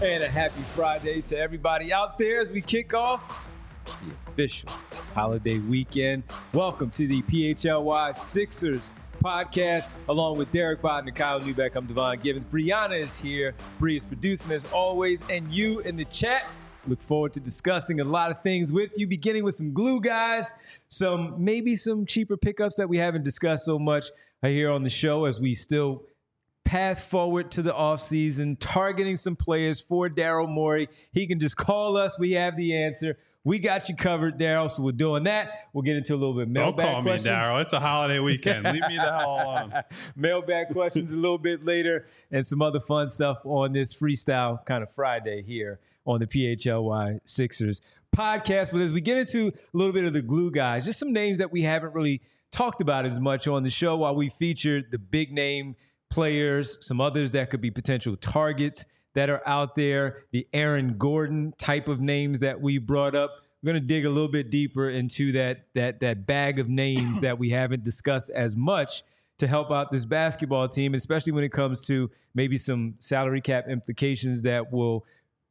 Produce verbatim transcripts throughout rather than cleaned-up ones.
And a happy Friday to everybody out there as we kick off the official holiday weekend. Welcome to the P H L Y Sixers podcast, along with Derek Bodden, Kyle Neubeck. I'm Devon Givens. Brianna is here. Bree is producing as always, and you in the chat. Look forward to discussing a lot of things with you, beginning with some glue guys, some maybe some cheaper pickups that we haven't discussed so much here on the show as we still path forward to the offseason, targeting some players for Daryl Morey. He can just call us. We have the answer. We got you covered, Daryl. So we're doing that. We'll get into a little bit of mailbag Don't call questions. me Daryl. It's a holiday weekend. Leave me the hell alone. Mailbag questions a little bit later and some other fun stuff on this freestyle kind of Friday here on the P H L Y Sixers podcast. But as we get into a little bit of the glue guys, just some names that we haven't really talked about as much on the show, while we featured the big name players, some others that could be potential targets that are out there, the Aaron Gordon type of names that we brought up. We're going to dig a little bit deeper into that that that bag of names that we haven't discussed as much to help out this basketball team, especially when it comes to maybe some salary cap implications that will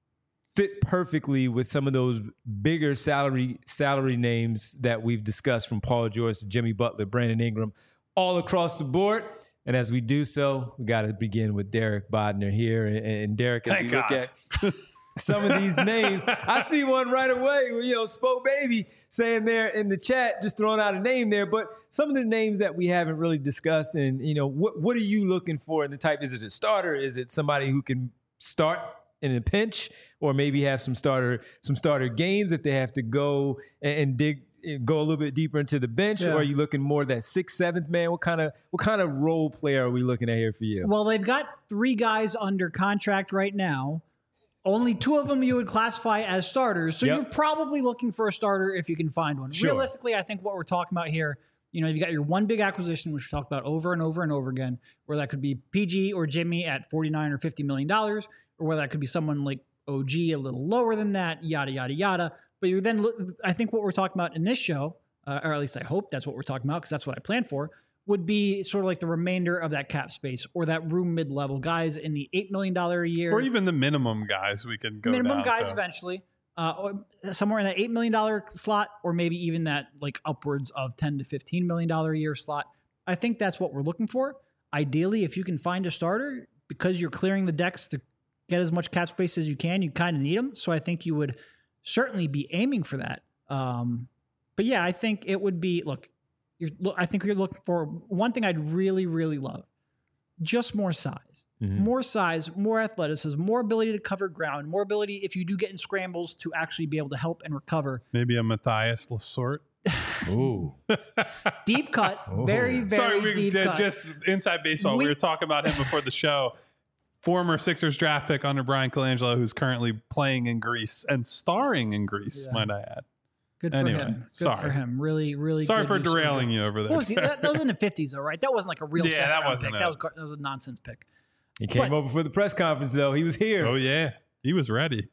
fit perfectly with some of those bigger salary salary names that we've discussed, from Paul George to Jimmy Butler, Brandon Ingram, all across the board. And as we do so, we got to begin with Derek Bodner here. And, and Derek, as Thank we look God. at some of these names, I see one right away. You know, Spoke Baby saying there in the chat, just throwing out a name there. But some of the names that we haven't really discussed, and you know, what what are you looking for in the type? Is it a starter? Is it somebody who can start in a pinch, or maybe have some starter some starter games if they have to go and, and dig? Go a little bit deeper into the bench, Yeah. or are you looking more that sixth, seventh man? What kind of what kind of role player are we looking at here for you? Well, they've got three guys under contract right now. Only two of them you would classify as starters. So Yep. you're probably looking for a starter if you can find one. Sure. Realistically, I think what we're talking about here, you know, you got your one big acquisition, which we talked about over and over and over again, where that could be P G or Jimmy at forty-nine or fifty million dollars, or whether that could be someone like O G a little lower than that, yada, yada, yada. But you then look, I think what we're talking about in this show, uh, or at least I hope that's what we're talking about, because that's what I planned for, would be sort of like the remainder of that cap space, or that room mid-level guys in the eight million dollars a year. Or even the minimum guys we could go minimum down guys to. eventually, uh, or somewhere in that eight million dollars slot, or maybe even that like upwards of ten to fifteen million dollars a year slot. I think that's what we're looking for. Ideally, if you can find a starter, because you're clearing the decks to get as much cap space as you can, you kind of need them. So I think you would certainly be aiming for that. Um, but yeah, I think it would be, look, you're, look, I think you're looking for one thing I'd really, really love, just more size. Mm-hmm. More size, more athleticism, more ability to cover ground, more ability, if you do get in scrambles, to actually be able to help and recover. Maybe a Matthias Lasort. Ooh. Deep cut, Oh. very, very Sorry, we deep did cut. just inside baseball. We, We- were talking about him before the show. Former Sixers draft pick under Brian Colangelo, who's currently playing in Greece and starring in Greece, Yeah. might I add. Good for Anyway, him. Good sorry. for him. Really, really Sorry good for use of derailing it. you over there. What was he? That, that was in the fifties, though, right? That wasn't like a real Yeah, second that round wasn't pick. a- That was, gar- that was a nonsense pick. He came But- over for the press conference, though. He was here. Oh, yeah. He was ready.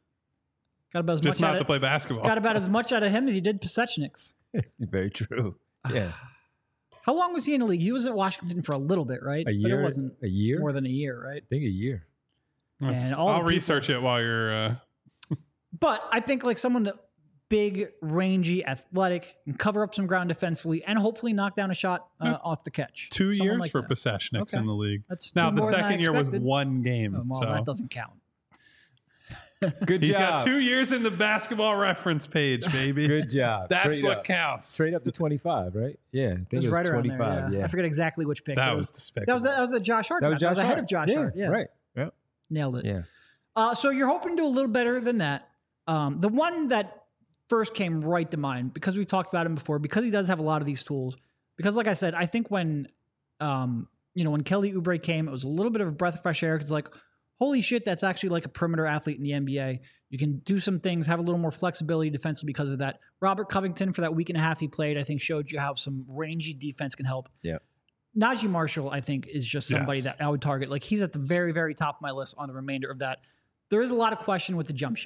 Got about as Just much not out to of, play basketball. got about as much out of him as he did Pasechniks. Very true. Yeah. How long was he in the league? He was at Washington for a little bit, right? A But year. it wasn't a year? more than a year, right? I think a year. Let's- and all the I'll people- research it while you're... Uh, But I think like someone that big, rangy, athletic, and cover up some ground defensively, and hopefully knock down a shot uh, off the catch. two Someone years like for that. Pasechniks Okay. in the league. That's Now, two the more than I second year was expected. one game. Oh, well, so that doesn't count. Good he's job. got two years in the basketball reference page, baby. Good job. That's Trade what up. counts. Trade up to twenty-five, right? Yeah. I think It was, it was right around twenty-five. there. Yeah. yeah. I forget exactly which pick. That it was That despicable. was that was a Josh Hart. That was draft. Josh ahead Hart. of Josh yeah, Hart. Yeah, Right. Yeah. nailed it. Yeah. Uh, so you're hoping to do a little better than that. Um, the one that first came right to mind, because we've talked about him before, because he does have a lot of these tools. Because, like I said, I think when um, you know when Kelly Oubre came, it was a little bit of a breath of fresh air. Because like, holy shit, that's actually like a perimeter athlete in the N B A. You can do some things, have a little more flexibility defensively because of that. Robert Covington, for that week and a half he played, I think showed you how some rangy defense can help. Yeah. Najee Marshall, I think, is just somebody Yes. that I would target. Like, he's at the very, very top of my list on the remainder of that. There is a lot of question with the jump shot.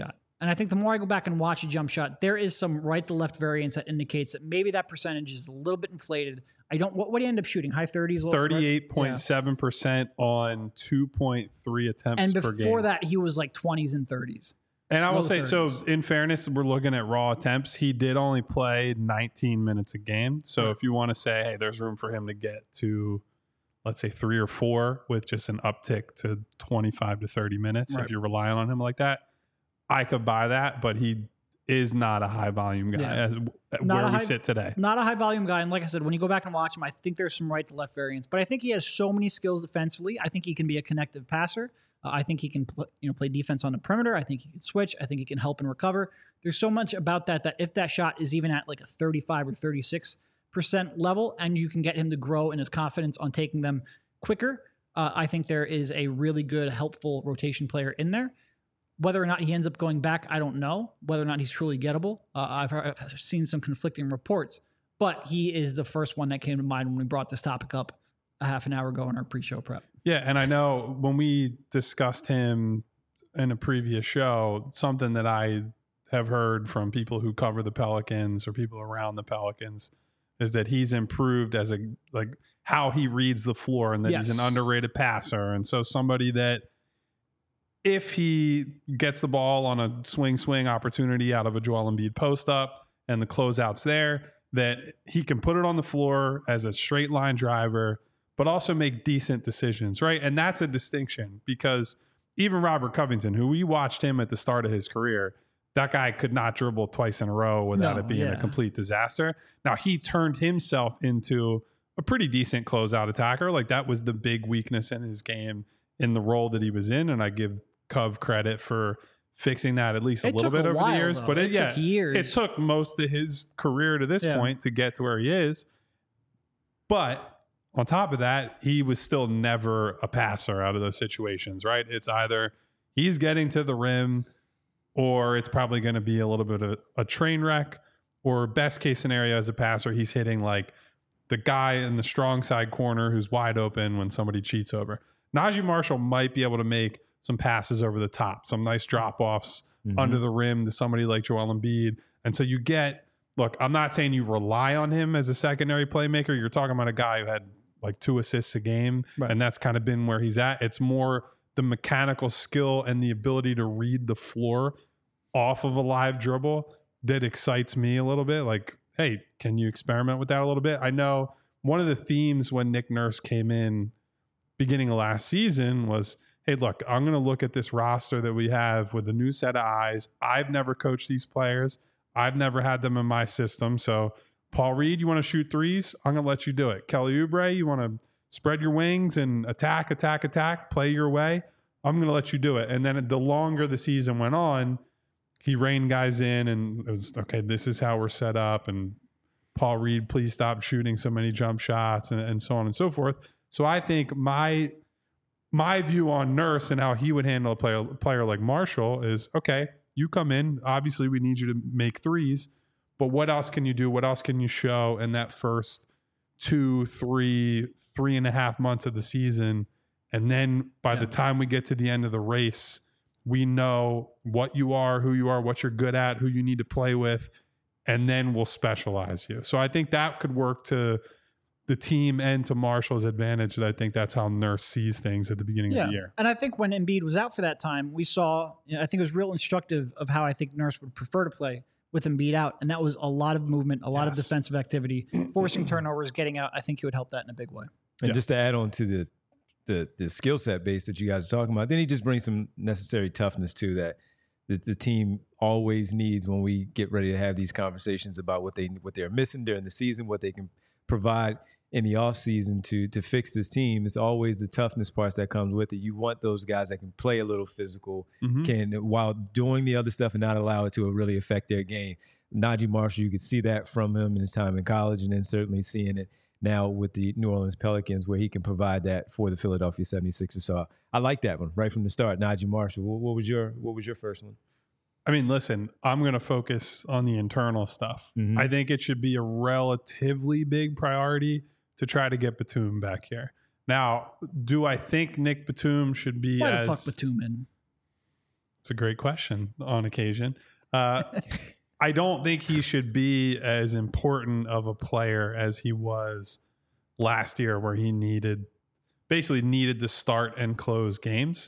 And I think the more I go back and watch a jump shot, there is some right to left variance that indicates that maybe that percentage is a little bit inflated. I don't, what, what do you end up shooting? High thirties? thirty-eight point seven percent yeah. on two point three attempts and per game. And before that, he was like twenties and thirties. And I will say, thirties. So in fairness, we're looking at raw attempts. He did only play nineteen minutes a game. So right. if you want to say, hey, there's room for him to get to, let's say, three or four with just an uptick to twenty-five to thirty minutes, right. if you're relying on him like that, I could buy that. But he is not a high volume guy yeah. as not where we high, sit today. Not a high volume guy. And like I said, when you go back and watch him, I think there's some right to left variance. But I think he has so many skills defensively. I think he can be a connective passer. Uh, I think he can pl- you know, play defense on the perimeter. I think he can switch. I think he can help and recover. There's so much about that that if that shot is even at like a thirty-five or thirty-six percent level and you can get him to grow in his confidence on taking them quicker, uh, I think there is a really good, helpful rotation player in there. Whether or not he ends up going back, I don't know. Whether or not he's truly gettable, uh, I've, I've seen some conflicting reports. But he is the first one that came to mind when we brought this topic up a half an hour ago in our pre-show prep. Yeah, and I know when we discussed him in a previous show, something that I have heard from people who cover the Pelicans or people around the Pelicans is that he's improved as a like how he reads the floor and that yes. he's an underrated passer. And so somebody that if he gets the ball on a swing swing opportunity out of a Joel Embiid post up and the closeouts there, that he can put it on the floor as a straight line driver, but also make decent decisions, right? And that's a distinction because even Robert Covington, who we watched him at the start of his career, that guy could not dribble twice in a row without no, it being yeah. a complete disaster. Now, he turned himself into a pretty decent closeout attacker. Like that was the big weakness in his game in the role that he was in. And I give Cov credit for fixing that at least a it little bit a over while, the years. Though. But it, it yeah, took years. It took most of his career to this yeah. point to get to where he is. But on top of that, he was still never a passer out of those situations, right? It's either he's getting to the rim or it's probably going to be a little bit of a train wreck, or best case scenario as a passer, he's hitting like the guy in the strong side corner who's wide open when somebody cheats over. Najee Marshall might be able to make some passes over the top, some nice drop-offs mm-hmm. under the rim to somebody like Joel Embiid. And so you get, look, I'm not saying you rely on him as a secondary playmaker. You're talking about a guy who had like two assists a game, right. and that's kind of been where he's at. It's more the mechanical skill and the ability to read the floor off of a live dribble that excites me a little bit. Like, hey, can you experiment with that a little bit? I know one of the themes when Nick Nurse came in beginning of last season was, hey, look, I'm going to look at this roster that we have with a new set of eyes. I've never coached these players. I've never had them in my system. So Paul Reed, you want to shoot threes? I'm going to let you do it. Kelly Oubre, you want to spread your wings and attack, attack, attack, play your way? I'm going to let you do it. And then the longer the season went on, he reined guys in and it was, okay, this is how we're set up. And Paul Reed, please stop shooting so many jump shots and, and so on and so forth. So I think my my view on Nurse and how he would handle a player, player like Marshall is, okay, you come in. Obviously, we need you to make threes. But what else can you do? What else can you show in that first two, three, three and a half months of the season? And then by yeah. the time we get to the end of the race, we know what you are, who you are, what you're good at, who you need to play with, and then we'll specialize you. So I think that could work to the team and to Marshall's advantage. That I think that's how Nurse sees things at the beginning yeah. of the year. And I think when Embiid was out for that time, we saw, you know, I think it was real instructive of how I think Nurse would prefer to play with Embiid out. And that was a lot of movement, a lot yes. of defensive activity, forcing turnovers, getting out. I think he would help that in a big way. And yeah. just to add on to the the the skill set base that you guys are talking about, then he just brings some necessary toughness too that the, the team always needs when we get ready to have these conversations about what they what they're missing during the season, what they can provide in the offseason to to fix this team. It's always the toughness parts that comes with it. You want those guys that can play a little physical, mm-hmm. can while doing the other stuff and not allow it to really affect their game. Najee Marshall, you could see that from him in his time in college, and then certainly seeing it now with the New Orleans Pelicans, where he can provide that for the Philadelphia seventy-sixers. So I like that one right from the start. Najee Marshall. What, what was your What was your first one? I mean, listen, I'm going to focus on the internal stuff. Mm-hmm. I think it should be a relatively big priority to try to get Batum back here. Now, do I think Nick Batum should be Why as... the fuck Batum in? It's a great question on occasion. Uh, I don't think he should be as important of a player as he was last year, where he needed basically needed to start and close games.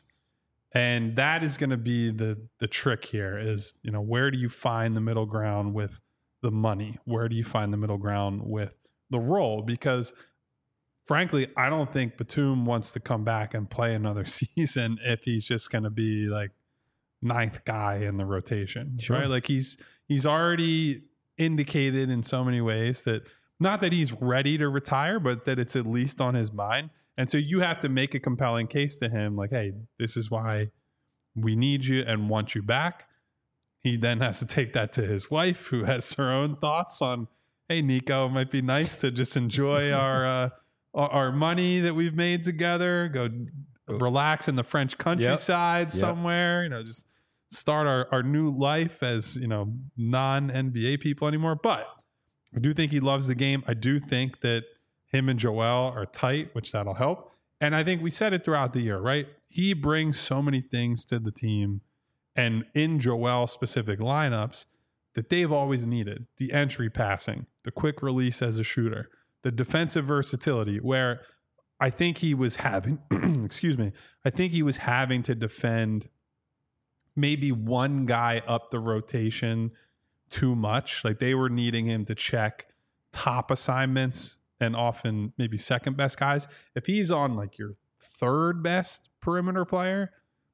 And that is going to be the the trick here is, you know, where do you find the middle ground with the money? Where do you find the middle ground with the role? Because frankly, I don't think Batum wants to come back and play another season if he's just going to be like ninth guy in the rotation, Sure. right? Like he's he's already indicated in so many ways that not that he's ready to retire, but that it's at least on his mind. And so you have to make a compelling case to him like, hey, this is why we need you and want you back. He then has to take that to his wife, who has her own thoughts on, hey, Nico, it might be nice to just enjoy our uh, our money that we've made together, go relax in the French countryside yep. somewhere, yep. you know, just start our, our new life as, you know, non-N B A people anymore. But I do think he loves the game. I do think that him and Joel are tight, which that'll help. And I think we said it throughout the year, right? He brings so many things to the team and in Joel specific lineups that they've always needed. The entry passing, the quick release as a shooter, the defensive versatility, where I think he was having, excuse me, I think he was having to defend maybe one guy up the rotation too much. Like they were needing him to check top assignments and often maybe second best guys. If he's on like your third best perimeter player,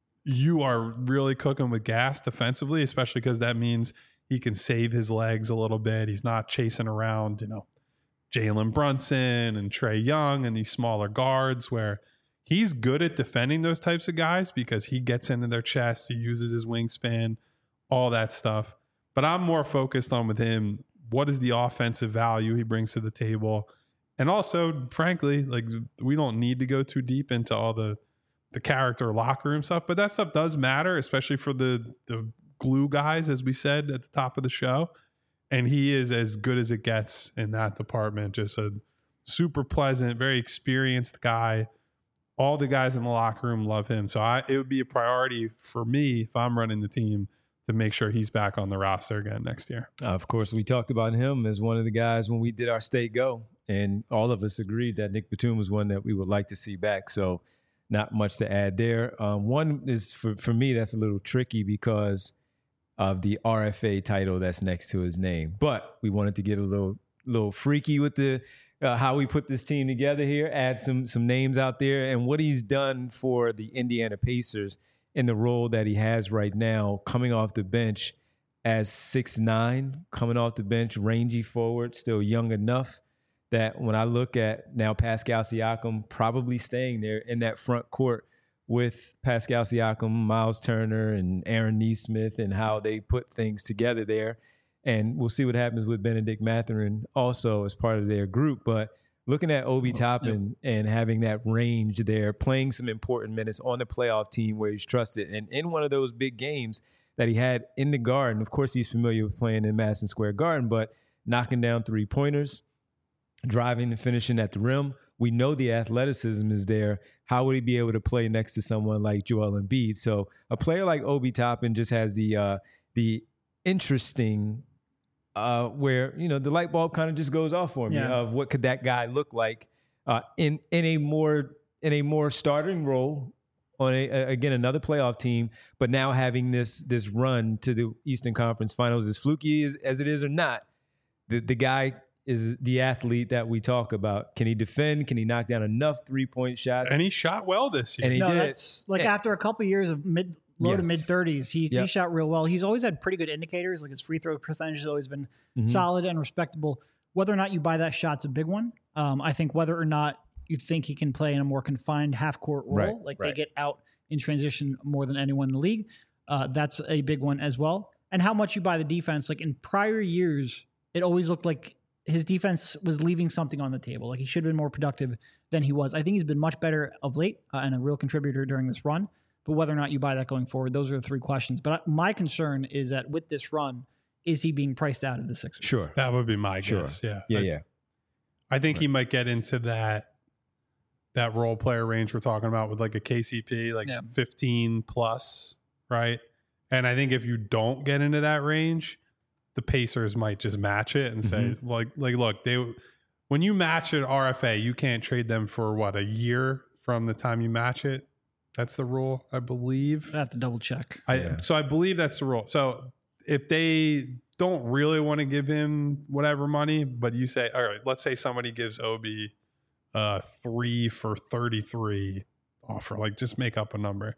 you are really cooking with gas defensively, especially because that means he can save his legs a little bit. He's not chasing around, you know, Jalen Brunson and Trae Young and these smaller guards, where he's good at defending those types of guys because he gets into their chest, he uses his wingspan, all that stuff. But I'm more focused on with him, what is the offensive value he brings to the table? And also, frankly, like we don't need to go too deep into all the the character locker room stuff, but that stuff does matter, especially for the the glue guys, as we said at the top of the show. And he is as good as it gets in that department. Just a super pleasant, very experienced guy. All the guys in the locker room love him. So I, it would be a priority for me if I'm running the team to make sure he's back on the roster again next year. Uh, of course, we talked about him as one of the guys when we did our State Go, and all of us agreed that Nick Batum was one that we would like to see back. So not much to add there. Um, one is, for, for me, that's a little tricky because of the R F A title that's next to his name. But we wanted to get a little little freaky with the uh, how we put this team together here, add some some names out there, and what he's done for the Indiana Pacers in the role that he has right now, coming off the bench as six nine, coming off the bench, rangy forward, still young enough that when I look at now Pascal Siakam probably staying there in that front court with Pascal Siakam, Miles Turner, and Aaron Nesmith, and how they put things together there. And we'll see what happens with Benedict Mathurin also as part of their group. But looking at Obi Toppin yep. and having that range there, playing some important minutes on the playoff team where he's trusted, and in one of those big games that he had in the Garden, of course he's familiar with playing in Madison Square Garden, but knocking down three-pointers, driving and finishing at the rim. We know the athleticism is there. How would he be able to play next to someone like Joel Embiid? So a player like Obi Toppin just has the uh, the interesting uh, where, you know, the light bulb kind of just goes off for me yeah. of what could that guy look like uh, in in a more in a more starting role on a, again another playoff team, but now having this this run to the Eastern Conference Finals, as fluky as, as it is or not, the the guy is the athlete that we talk about. Can he defend? Can he knock down enough three-point shots? And he shot well this year. And he no, did. That's like yeah. after a couple of years of mid, low yes. to mid thirties, he yep. he shot real well. He's always had pretty good indicators. Like his free throw percentage has always been mm-hmm. solid and respectable. Whether or not you buy that shot's a big one. Um, I think whether or not you think he can play in a more confined half-court role, right. like right. they get out in transition more than anyone in the league, uh, that's a big one as well. And how much you buy the defense. Like in prior years, it always looked like his defense was leaving something on the table. Like he should have been more productive than he was. I think he's been much better of late uh, and a real contributor during this run. But whether or not you buy that going forward, those are the three questions. But my concern is that with this run, is he being priced out of the Sixers? Sure. That would be my sure. guess. Yeah. Yeah, I, yeah. I think right. he might get into that that role player range we're talking about with like a K C P, like yeah. fifteen plus, right? And I think if you don't get into that range, the Pacers might just match it and say, Mm-hmm. like, like, look, they when you match an R F A, you can't trade them for what, a year from the time you match it. That's the rule, I believe. I have to double check. I Yeah. so I believe that's the rule. So if they don't really want to give him whatever money, but you say, all right, let's say somebody gives Obi uh three for thirty-three offer, like just make up a number.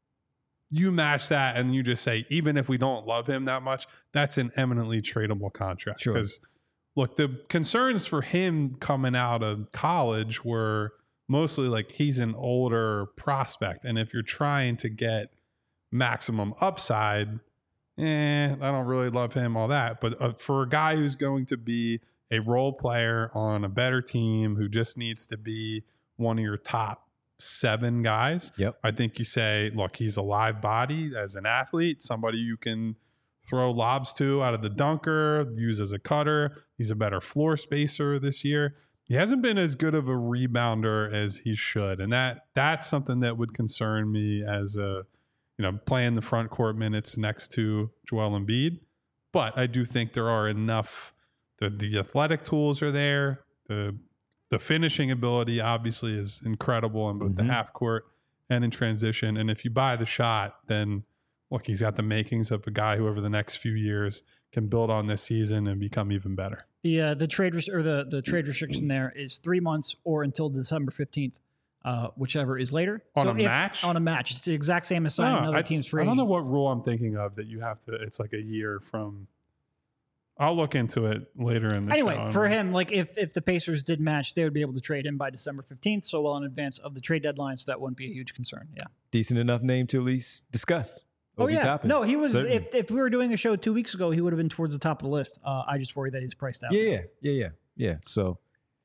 You match that and you just say, even if we don't love him that much, that's an eminently tradable contract. Sure. Because look, the concerns for him coming out of college were mostly like he's an older prospect. And if you're trying to get maximum upside, eh, I don't really love him, all that. But uh, for a guy who's going to be a role player on a better team, who just needs to be one of your top seven guys, Yep. I think you say, look, he's a live body as an athlete, somebody you can throw lobs to out of the dunker, use as a cutter. He's a better floor spacer this year. He hasn't been as good of a rebounder as he should. And that that's something that would concern me as a, you know, playing the front court minutes next to Joel Embiid. But I do think there are enough, the, the athletic tools are there. The the finishing ability obviously is incredible in both Mm-hmm. the half court and in transition. And if you buy the shot, then look, he's got the makings of a guy who over the next few years can build on this season and become even better. The uh, the trade res- or the the trade restriction there is three months or until December fifteenth, uh, whichever is later. On So a if- match? On a match, it's the exact same as signing No, another I, team's free I don't know agent. what rule I'm thinking of that you have to, it's like a year from, I'll look into it later in the Anyway, show. for him, like if if the Pacers did match, they would be able to trade him by December fifteenth, so well in advance of the trade deadline, so that wouldn't be a huge concern. Yeah. Decent enough name to at least discuss. Oh Obi yeah. Toppin. No, he was. Certainly. If if we were doing a show two weeks ago, he would have been towards the top of the list. Uh, I just worry that he's priced out. Yeah, yeah, yeah, yeah, yeah. So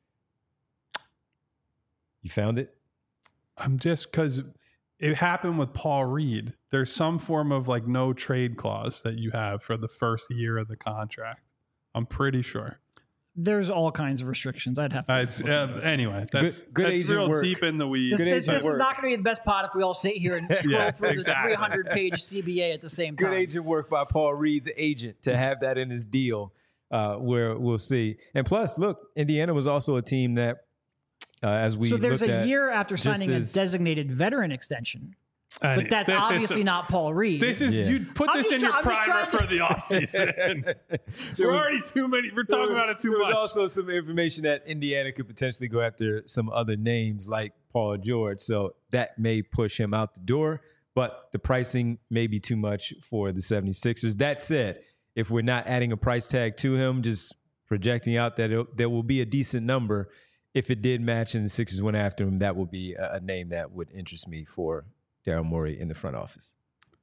you found it. I'm just, because it happened with Paul Reed. There's some form of like no trade clause that you have for the first year of the contract. I'm pretty sure. There's all kinds of restrictions. I'd have to. Uh, it's uh, anyway. That's Good- good that's agent real work. deep in the weeds. this good this, agent this is work. not going to be the best pod if we all sit here and scroll Yeah, through exactly. the three hundred page C B A at the same time. Good agent work by Paul Reed's agent to have that in his deal. Uh, where we'll see. And plus, look, Indiana was also a team that, uh, as we so there's looked a at, year after just signing as- a designated veteran extension, And but that's this is- obviously not Paul Reed. This is Yeah. you put I'm this just in your try- I'm just primer trying for the offseason. There We're was- already too many. We're talking there about it too there much. was also some information that Indiana could potentially go after some other names like Paul George. So that may push him out the door, but the pricing may be too much for the 76ers. That said, if we're not adding a price tag to him, just projecting out that it, there will be a decent number. If it did match and the Sixers went after him, that would be a, a name that would interest me for Daryl Morey in the front office.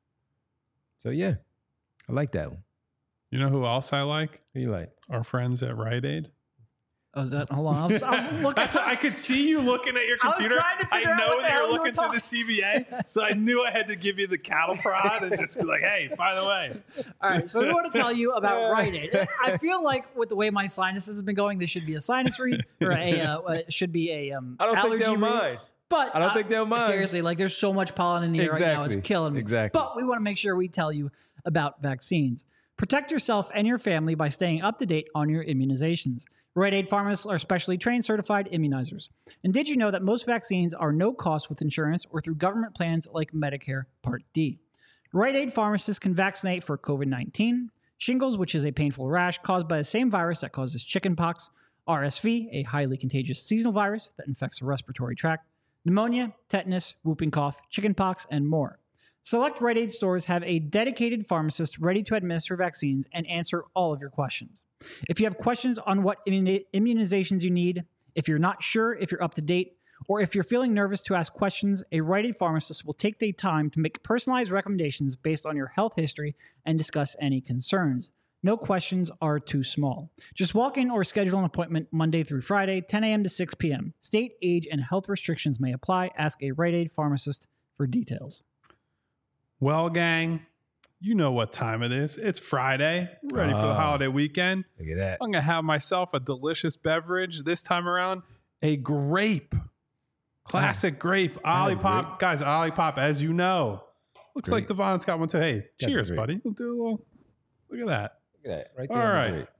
So yeah, I like that one. You know who else I like? Who you like? Our friends at Rite Aid. Oh, is that? Hold on. I was, I was looking. That's I could see you looking at your I was computer. trying to figure I out know what the that hell you're you were looking through talking- the C B A, so I knew I had to give you the cattle prod and just be like, "Hey, by the way, All right, so we want to tell you about Rite Aid. I feel like with the way my sinuses have been going, this should be a sinus read or a uh, it should be a um, I don't allergy think they'll read. mind. But I don't uh, think they'll mind. Seriously, like there's so much pollen in the air right now, it's Exactly. killing me. Exactly. But we want to make sure we tell you about vaccines. Protect yourself and your family by staying up to date on your immunizations. Rite Aid pharmacists are specially trained, certified immunizers. And did you know that most vaccines are no cost with insurance or through government plans like Medicare Part D? Rite Aid pharmacists can vaccinate for COVID nineteen, shingles, which is a painful rash caused by the same virus that causes chickenpox, R S V, a highly contagious seasonal virus that infects the respiratory tract, pneumonia, tetanus, whooping cough, chickenpox, and more. Select Rite Aid stores have a dedicated pharmacist ready to administer vaccines and answer all of your questions. If you have questions on what immuni- immunizations you need, if you're not sure if you're up to date, or if you're feeling nervous to ask questions, a Rite Aid pharmacist will take the time to make personalized recommendations based on your health history and discuss any concerns. No questions are too small. Just walk in or schedule an appointment Monday through Friday, ten a.m. to six p.m. State, age, and health restrictions may apply. Ask a Rite Aid pharmacist for details. well, gang, you know what time it is. It's Friday, ready for the Ah. holiday weekend. Look at that. I'm gonna have myself a delicious beverage this time around, a grape, classic grape, I like Olipop, guys. Olipop, as you know, looks Great. like Devon's got one too. Hey, cheers, great. buddy. We'll do a little, look at that. Look at that right All there. on the right. grate.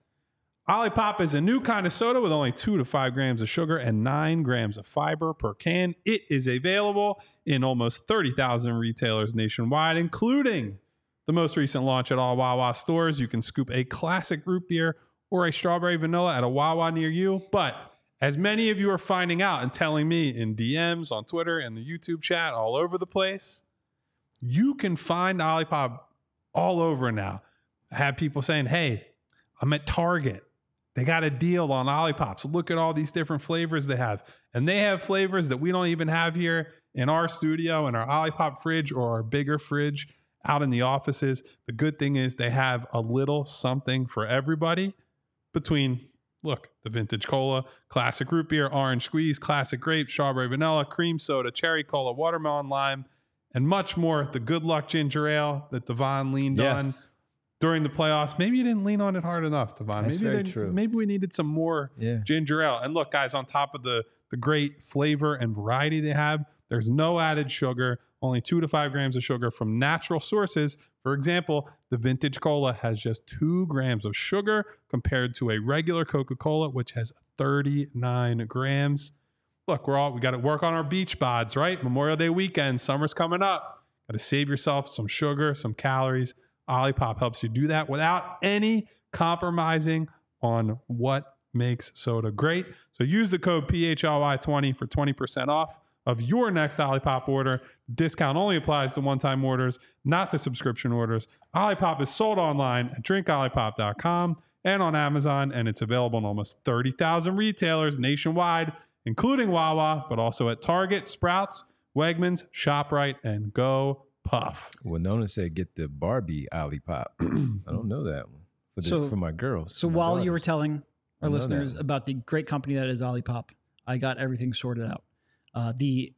Olipop is a new kind of soda with only two to five grams of sugar and nine grams of fiber per can. It is available in almost thirty thousand retailers nationwide, including the most recent launch at all Wawa stores. You can scoop a classic root beer or a strawberry vanilla at a Wawa near you. But as many of you are finding out and telling me in D Ms, on Twitter, and the YouTube chat, all over the place, you can find Olipop all over now. I have people saying, hey, I'm at Target. They got a deal on Olipops. Look at all these different flavors they have. And they have flavors that we don't even have here in our studio, in our Olipop fridge or our bigger fridge out in the offices. The good thing is they have a little something for everybody between, look, the vintage cola, classic root beer, orange squeeze, classic grape, strawberry vanilla, cream soda, cherry cola, watermelon lime, and much more. The Good Luck ginger ale that Devon leaned Yes. on during the playoffs. Maybe you didn't lean on it hard enough, Devon. That's maybe very they- true. Maybe we needed some more Yeah. ginger ale. And look, guys, on top of the the great flavor and variety they have, there's no added sugar, only two to five grams of sugar from natural sources. For example, the vintage cola has just two grams of sugar compared to a regular Coca-Cola, which has thirty-nine grams. Look, we're all we got to work on our beach bods, right? Memorial Day weekend, summer's coming up. Got to save yourself some sugar, some calories. Olipop helps you do that without any compromising on what makes soda great. So use the code P H L Y twenty for twenty percent off of your next Olipop order. Discount only applies to one-time orders, not to subscription orders. Olipop is sold online at drink olipop dot com and on Amazon, and it's available in almost thirty thousand retailers nationwide, including Wawa, but also at Target, Sprouts, Wegmans, ShopRite, and Go Puff. Well, Nona said get the Barbie Olipop. I don't know that one for the, So- for my girls. So my while you were daughters. telling I our know listeners that. about the great company that is Olipop, I got everything sorted out. Uh, the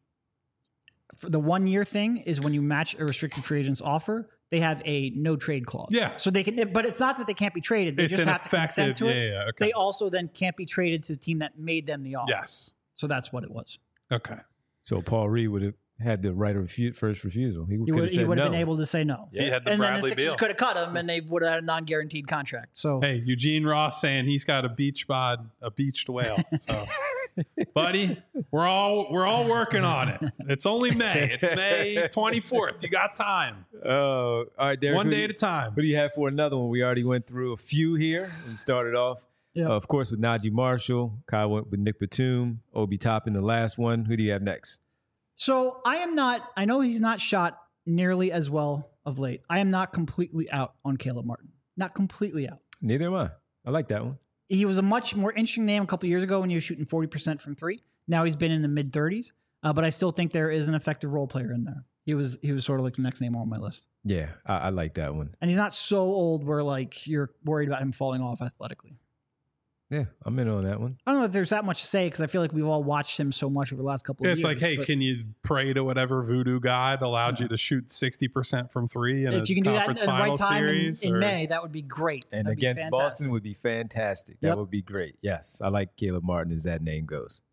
for the one year thing is when you match a restricted free agent's offer, they have a no trade clause. Yeah. So they can, but it's not that they can't be traded. They It's just an have to consent effective, to yeah, it. yeah, okay. They also then can't be traded to the team that made them the offer. Yes. So that's what it was. Okay. So Paul Reed would have had the right of refu- first refusal. He, He could would, have he said would have no. been able to say no. He had the and then Bradley the Sixers Beal. could have cut him and they would have had a non-guaranteed contract. So Hey, Eugene Ross saying he's got a beach bod, a beached whale. So, buddy, we're all we're all working on it. It's only May. It's May twenty-fourth. You got time. Oh, all right, Derek. One who day do at you- a time. What do you have for another one? We already went through a few here. We started off, Yeah. uh, of course, with Najee Marshall. Kyle went with Nick Batum. Obi Toppin, the last one. Who do you have next? So I am not, I know he's not shot nearly as well of late. I am not completely out on Caleb Martin. Not completely out. Neither am I. I like that one. He was a much more interesting name a couple years ago when he was shooting forty percent from three. Now he's been in the mid thirties, uh, but I still think there is an effective role player in there. He was he was sort of like the next name on my list. Yeah, I, I like that one. And he's not so old where like you're worried about him falling off athletically. Yeah, I'm in on that one. I don't know if there's that much to say because I feel like we've all watched him so much over the last couple of It's years. like, hey, but can you pray to whatever voodoo god allowed you to shoot sixty percent from three in if a you can do that conference at the final right time in, series? in or- May, that would be great. And That'd be against fantastic. Boston would be fantastic. That Yep. would be great. Yes, I like Caleb Martin as that name goes.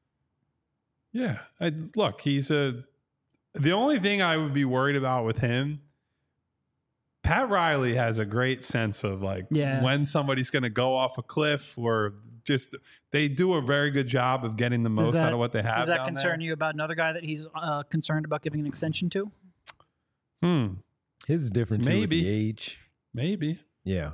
Yeah. I, look, he's a. The only thing I would be worried about with him, Pat Riley has a great sense of like Yeah. when somebody's going to go off a cliff or just they do a very good job of getting the Does most that- out of what they have. Does that down concern there. you about another guy that he's uh, concerned about giving an extension to? Hmm. His is different too with Maybe. the age. Maybe. Yeah.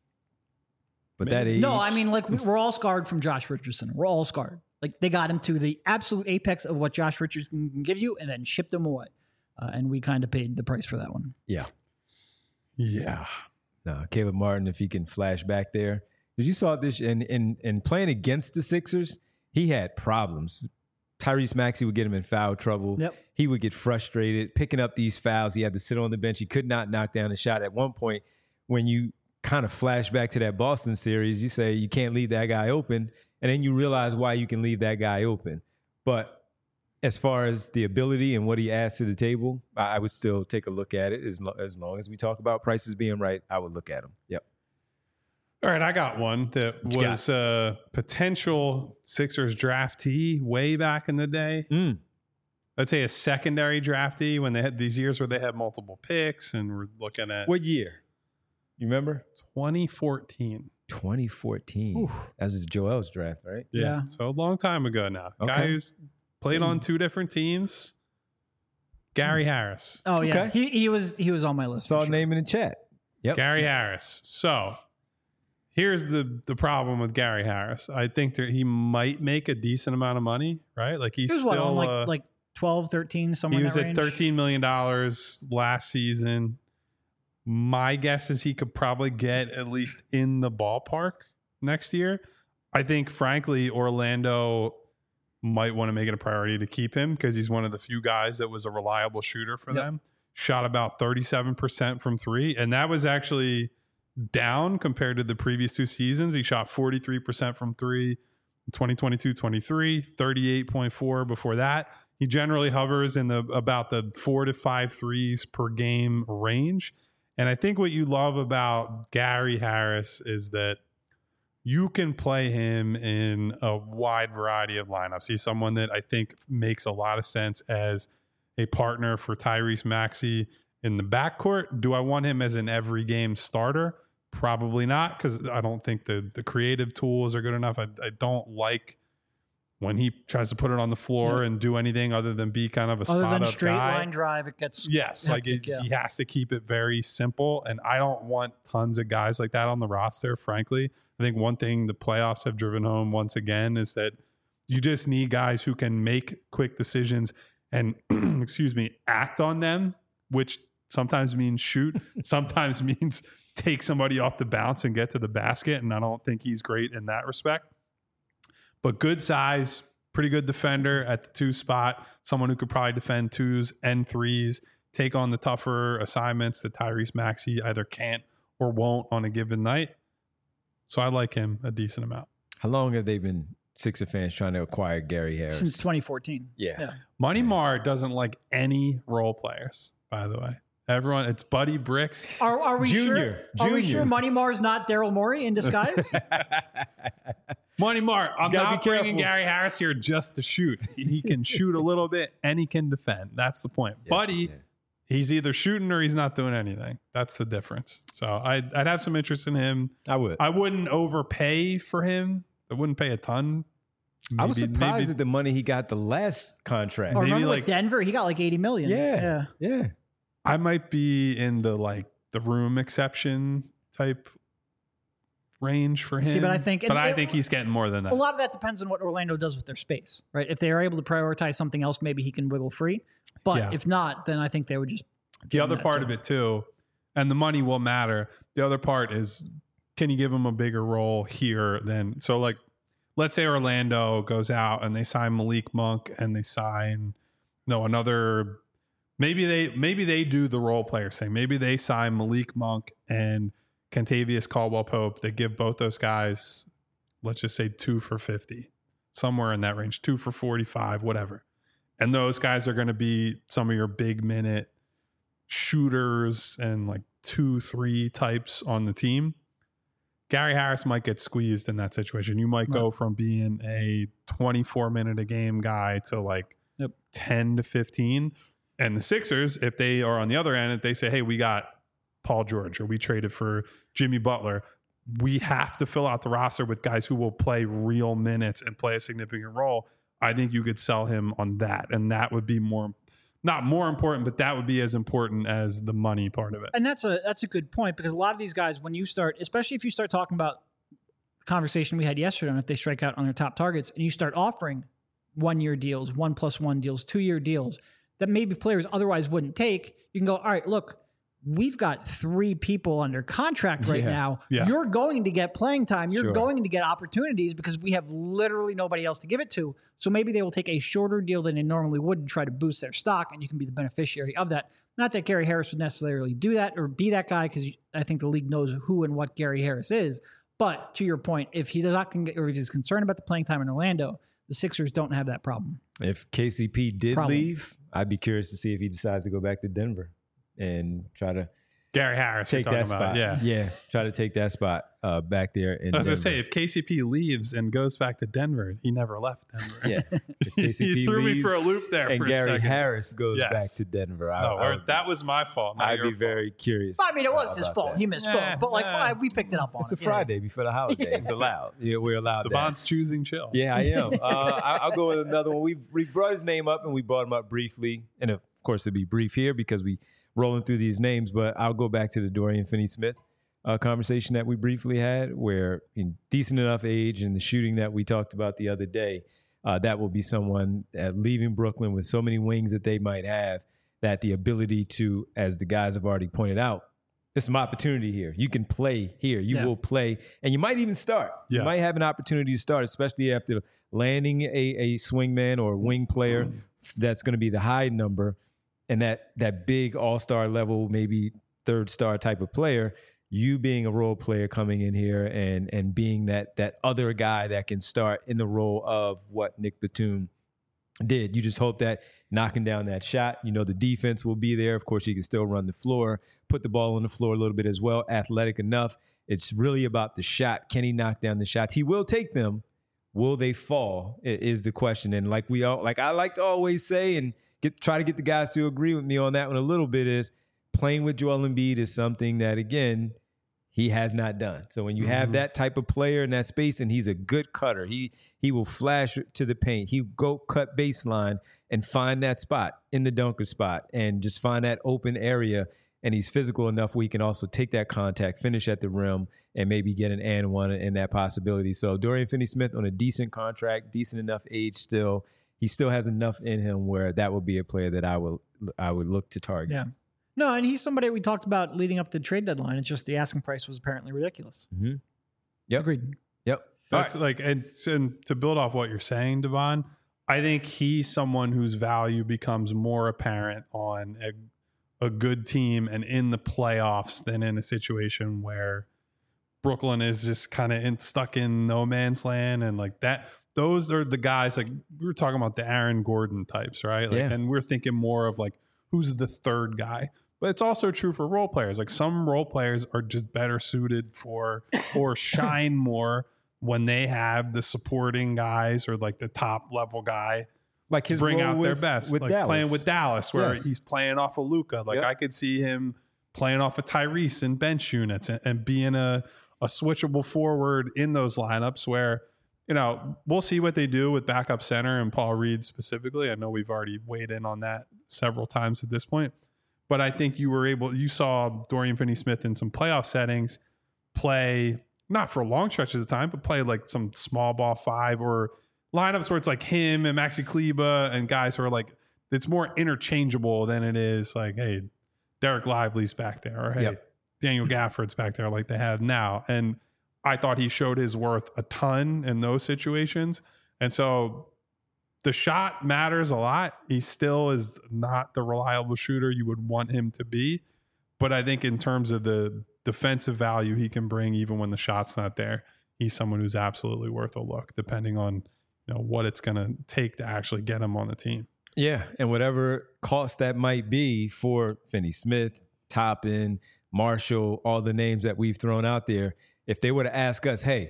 But Maybe. that age. No, I mean, like, we- we're all scarred from Josh Richardson. We're all scarred. Like, they got him to the absolute apex of what Josh Richardson can give you and then shipped him away. Uh, and we kind of paid the price for that one. Yeah. Yeah. No, Caleb Martin, if he can flash back there. Because you saw this in, in, in playing against the Sixers, he had problems. Tyrese Maxey would get him in foul trouble. Yep. He would get frustrated picking up these fouls. He had to sit on the bench. He could not knock down a shot. At one point, when you kind of flash back to that Boston series, you say you can't leave that guy open. And then you realize why you can leave that guy open. But as far as the ability and what he adds to the table, I, I would still take a look at it. As, lo- as long as we talk about prices being right, I would look at him. Yep. All right, I got one that What you was a potential Sixers draftee way back in the day. Mm. I'd say a secondary draftee when they had these years where they had multiple picks, and we're looking at What year? You remember? twenty fourteen. twenty fourteen. Ooh. That was Joel's draft, right? Yeah. Yeah. So a long time ago now. Okay. Guy who's played on two different teams. Gary Harris. Oh yeah, Okay. he he was he was on my list. Saw for a sure. name in the chat. Yep. Gary Harris. So here's the the problem with Gary Harris. I think that he might make a decent amount of money, right? Like he's He was still what, on like uh, like twelve, thirteen, somewhere he in was that at range. thirteen million dollars last season. My guess is he could probably get at least in the ballpark next year. I think, frankly, Orlando might want to make it a priority to keep him because he's one of the few guys that was a reliable shooter for Yep. them. Shot about thirty-seven percent from three, and that was actually down compared to the previous two seasons. He shot forty-three percent from three in twenty twenty-two twenty-three, thirty-eight point four before that. He generally hovers in the about the four to five threes per game range. And I think what you love about Gary Harris is that you can play him in a wide variety of lineups. He's someone that I think makes a lot of sense as a partner for Tyrese Maxey in the backcourt. Do I want him as an every game starter? Probably not, because I don't think the the creative tools are good enough. I, I don't like when he tries to put it on the floor Yeah. and do anything other than be kind of a Other spot than up straight guy. line drive, it gets Yes, like hectic, it, yeah. he has to keep it very simple, and I don't want tons of guys like that on the roster. Frankly, I think one thing the playoffs have driven home once again is that you just need guys who can make quick decisions and, excuse me, act on them, which sometimes means shoot, sometimes means take somebody off the bounce and get to the basket. And I don't think he's great in that respect. But good size, pretty good defender at the two spot, someone who could probably defend twos and threes, take on the tougher assignments that Tyrese Maxey either can't or won't on a given night. So I like him a decent amount. How long have they been Sixer fans trying to acquire Gary Harris? since twenty fourteen. Yeah. Yeah. Money Mar doesn't like any role players, by the way. Everyone, it's Buddy Bricks. Are, are we Junior. sure? Are we Junior. sure Money Mar's not Daryl Morey in disguise? Money Mar, I'm gotta not be bringing careful. Gary Harris here just to shoot. He can shoot a little bit and he can defend. That's the point. Yes, Buddy, yeah. he's either shooting or he's not doing anything. That's the difference. So I'd, I'd have some interest in him. I would. I wouldn't overpay for him. I wouldn't pay a ton. I was Maybe- surprised maybe- at the money he got the last contract. Oh, Maybe remember like- with Denver? He got like eighty million. Yeah. Yeah. Yeah. I might be in the like the room exception type range for him. See, but I think- but and I it- think he's getting more than that. A lot of that depends on what Orlando does with their space, right? If they are able to prioritize something else, maybe he can wiggle free. But Yeah. if not, then I think they would just. The other part of it too, and the money will matter. The other part is, can you give him a bigger role here than so? Like, let's say Orlando goes out and they sign Malik Monk and they sign no another. Maybe they maybe they do the role player thing. Maybe they sign Malik Monk and Kentavious Caldwell Pope. They give both those guys, let's just say two for fifty, somewhere in that range, two for forty-five, whatever. And those guys are going to be some of your big minute shooters and like two, three types on the team. Gary Harris might get squeezed in that situation. You might go from being a twenty-four minute a game guy to like Yep. ten to fifteen. And the Sixers, if they are on the other end, if they say, hey, we got Paul George or we traded for Jimmy Butler, we have to fill out the roster with guys who will play real minutes and play a significant role. I think you could sell him on that. And that would be more, not more important, but that would be as important as the money part of it. And that's a that's a good point, because a lot of these guys, when you start, especially if you start talking about the conversation we had yesterday on if they strike out on their top targets, and you start offering one year deals, one plus one deals, two year deals that maybe players otherwise wouldn't take, you can go, all right, look, we've got three people under contract right Yeah. now. Yeah. You're going to get playing time. You're Sure. going to get opportunities because we have literally nobody else to give it to. So maybe they will take a shorter deal than they normally would and try to boost their stock, and you can be the beneficiary of that. Not that Gary Harris would necessarily do that or be that guy, because I think the league knows who and what Gary Harris is. But to your point, if he does not con- or he's concerned about the playing time in Orlando, the Sixers don't have that problem. If K C P did Problem. leave, I'd be curious to see if he decides to go back to Denver and try to Gary Harris. take you're that talking about. spot. Yeah. yeah, try to take that spot uh, back there. In I was going Denver. to say, if K C P leaves and goes back to Denver, he never left Denver. Yeah, if K C P he threw me leaves for a loop there and for Gary a second. Harris goes Yes. back to Denver. I, No, I or would, that was my fault. Not I'd your be fault. very curious. I mean, it was his about fault. that. He misspoke, Nah, but like nah. I, we picked it up on It's a it. Yeah. Friday before the holiday. It's allowed. Yeah, we're allowed that. Devon's choosing chill. Yeah, I am. Uh, I, I'll go with another one. We we brought his name up and we brought him up briefly, and of course it'd be brief here because we rolling through these names. But I'll go back to the Dorian Finney-Smith uh, conversation that we briefly had, where in decent enough age and the shooting that we talked about the other day, uh, that will be someone at leaving Brooklyn with so many wings that they might have, that the ability to, as the guys have already pointed out, there's some opportunity here. You can play here. You Yeah. will play, and you might even start. Yeah. You might have an opportunity to start, especially after landing a, a swingman or a wing player that's going to be the high number, and that that big all-star level, maybe third star type of player. You being a role player coming in here and and being that that other guy that can start in the role of what Nick Batum did. You just hope that knocking down that shot, you know, the defense will be there. Of course, he can still run the floor, put the ball on the floor a little bit as well, athletic enough. It's really about the shot. Can he knock down the shots? He will take them. Will they fall is the question. And like we all, like I like to always say and get try to get the guys to agree with me on that one a little bit, is playing with Joel Embiid is something that, again, he has not done. So when you have Mhm. that type of player in that space, and he's a good cutter, he he will flash to the paint. He go cut baseline and find that spot in the dunker spot and just find that open area. And he's physical enough where he can also take that contact, finish at the rim, and maybe get an and one in that possibility. So Dorian Finney-Smith on a decent contract, decent enough age still. He still has enough in him where that would be a player that I would I would look to target. Yeah. No, and he's somebody we talked about leading up the trade deadline. It's just the asking price was apparently ridiculous. Mm-hmm. Yep. Agreed. Yep. That's like, and, and to build off what you're saying, Devon, I think he's someone whose value becomes more apparent on a, a good team and in the playoffs than in a situation where Brooklyn is just kind of stuck in no man's land. And like that, those are the guys, like we were talking about the Aaron Gordon types, right? Like, Yeah. And we're thinking more of like, who's the third guy? But it's also true for role players. Like some role players are just better suited for or shine more when they have the supporting guys or like the top level guy Like his bring role out with, their best. with Like Dallas. playing with Dallas, where Yes. he's playing off of Luka. Like Yep. I could see him playing off of Tyrese in bench units and, and being a, a switchable forward in those lineups where, you know, we'll see what they do with backup center and Paul Reed specifically. I know we've already weighed in on that several times at this point. But I think you were able, you saw Dorian Finney-Smith in some playoff settings play, not for long stretches of time, but play like some small ball five or lineups where it's like him and Maxi Kleba and guys who are like, it's more interchangeable than it is like, hey, Derek Lively's back there, or hey, Yep. Daniel Gafford's back there like they have now. And I thought he showed his worth a ton in those situations. And so the shot matters a lot. He still is not the reliable shooter you would want him to be. But I think in terms of the defensive value he can bring, even when the shot's not there, he's someone who's absolutely worth a look, depending on, you know, what it's going to take to actually get him on the team. Yeah, and whatever cost that might be for Finney-Smith, Toppin, Marshall, all the names that we've thrown out there, if they were to ask us, hey,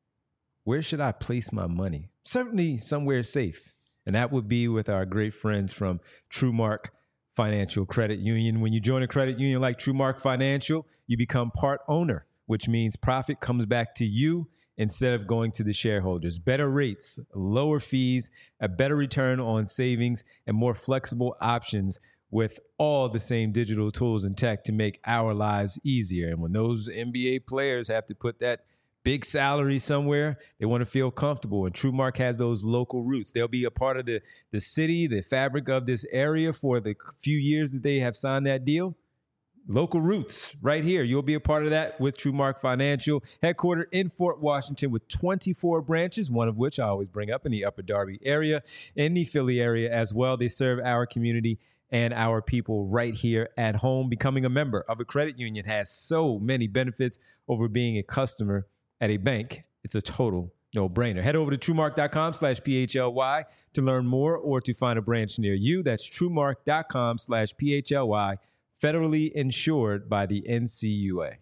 where should I place my money? Certainly somewhere safe. And that would be with our great friends from TrueMark Financial Credit Union. When you join a credit union like TrueMark Financial, you become part owner, which means profit comes back to you instead of going to the shareholders. Better rates, lower fees, a better return on savings, and more flexible options with all the same digital tools and tech to make our lives easier. And when those N B A players have to put that big salary somewhere, they want to feel comfortable. And TrueMark has those local roots. They'll be a part of the, the city, the fabric of this area for the few years that they have signed that deal. Local roots right here. You'll be a part of that with TrueMark Financial, headquartered in Fort Washington with twenty-four branches, one of which I always bring up in the Upper Darby area, in the Philly area as well. They serve our community and our people right here at home. Becoming a member of a credit union has so many benefits over being a customer at a bank. It's a total no-brainer. Head over to TrueMark.com slash PHLY to learn more or to find a branch near you. That's TrueMark.com slash PHLY federally insured by the N C U A?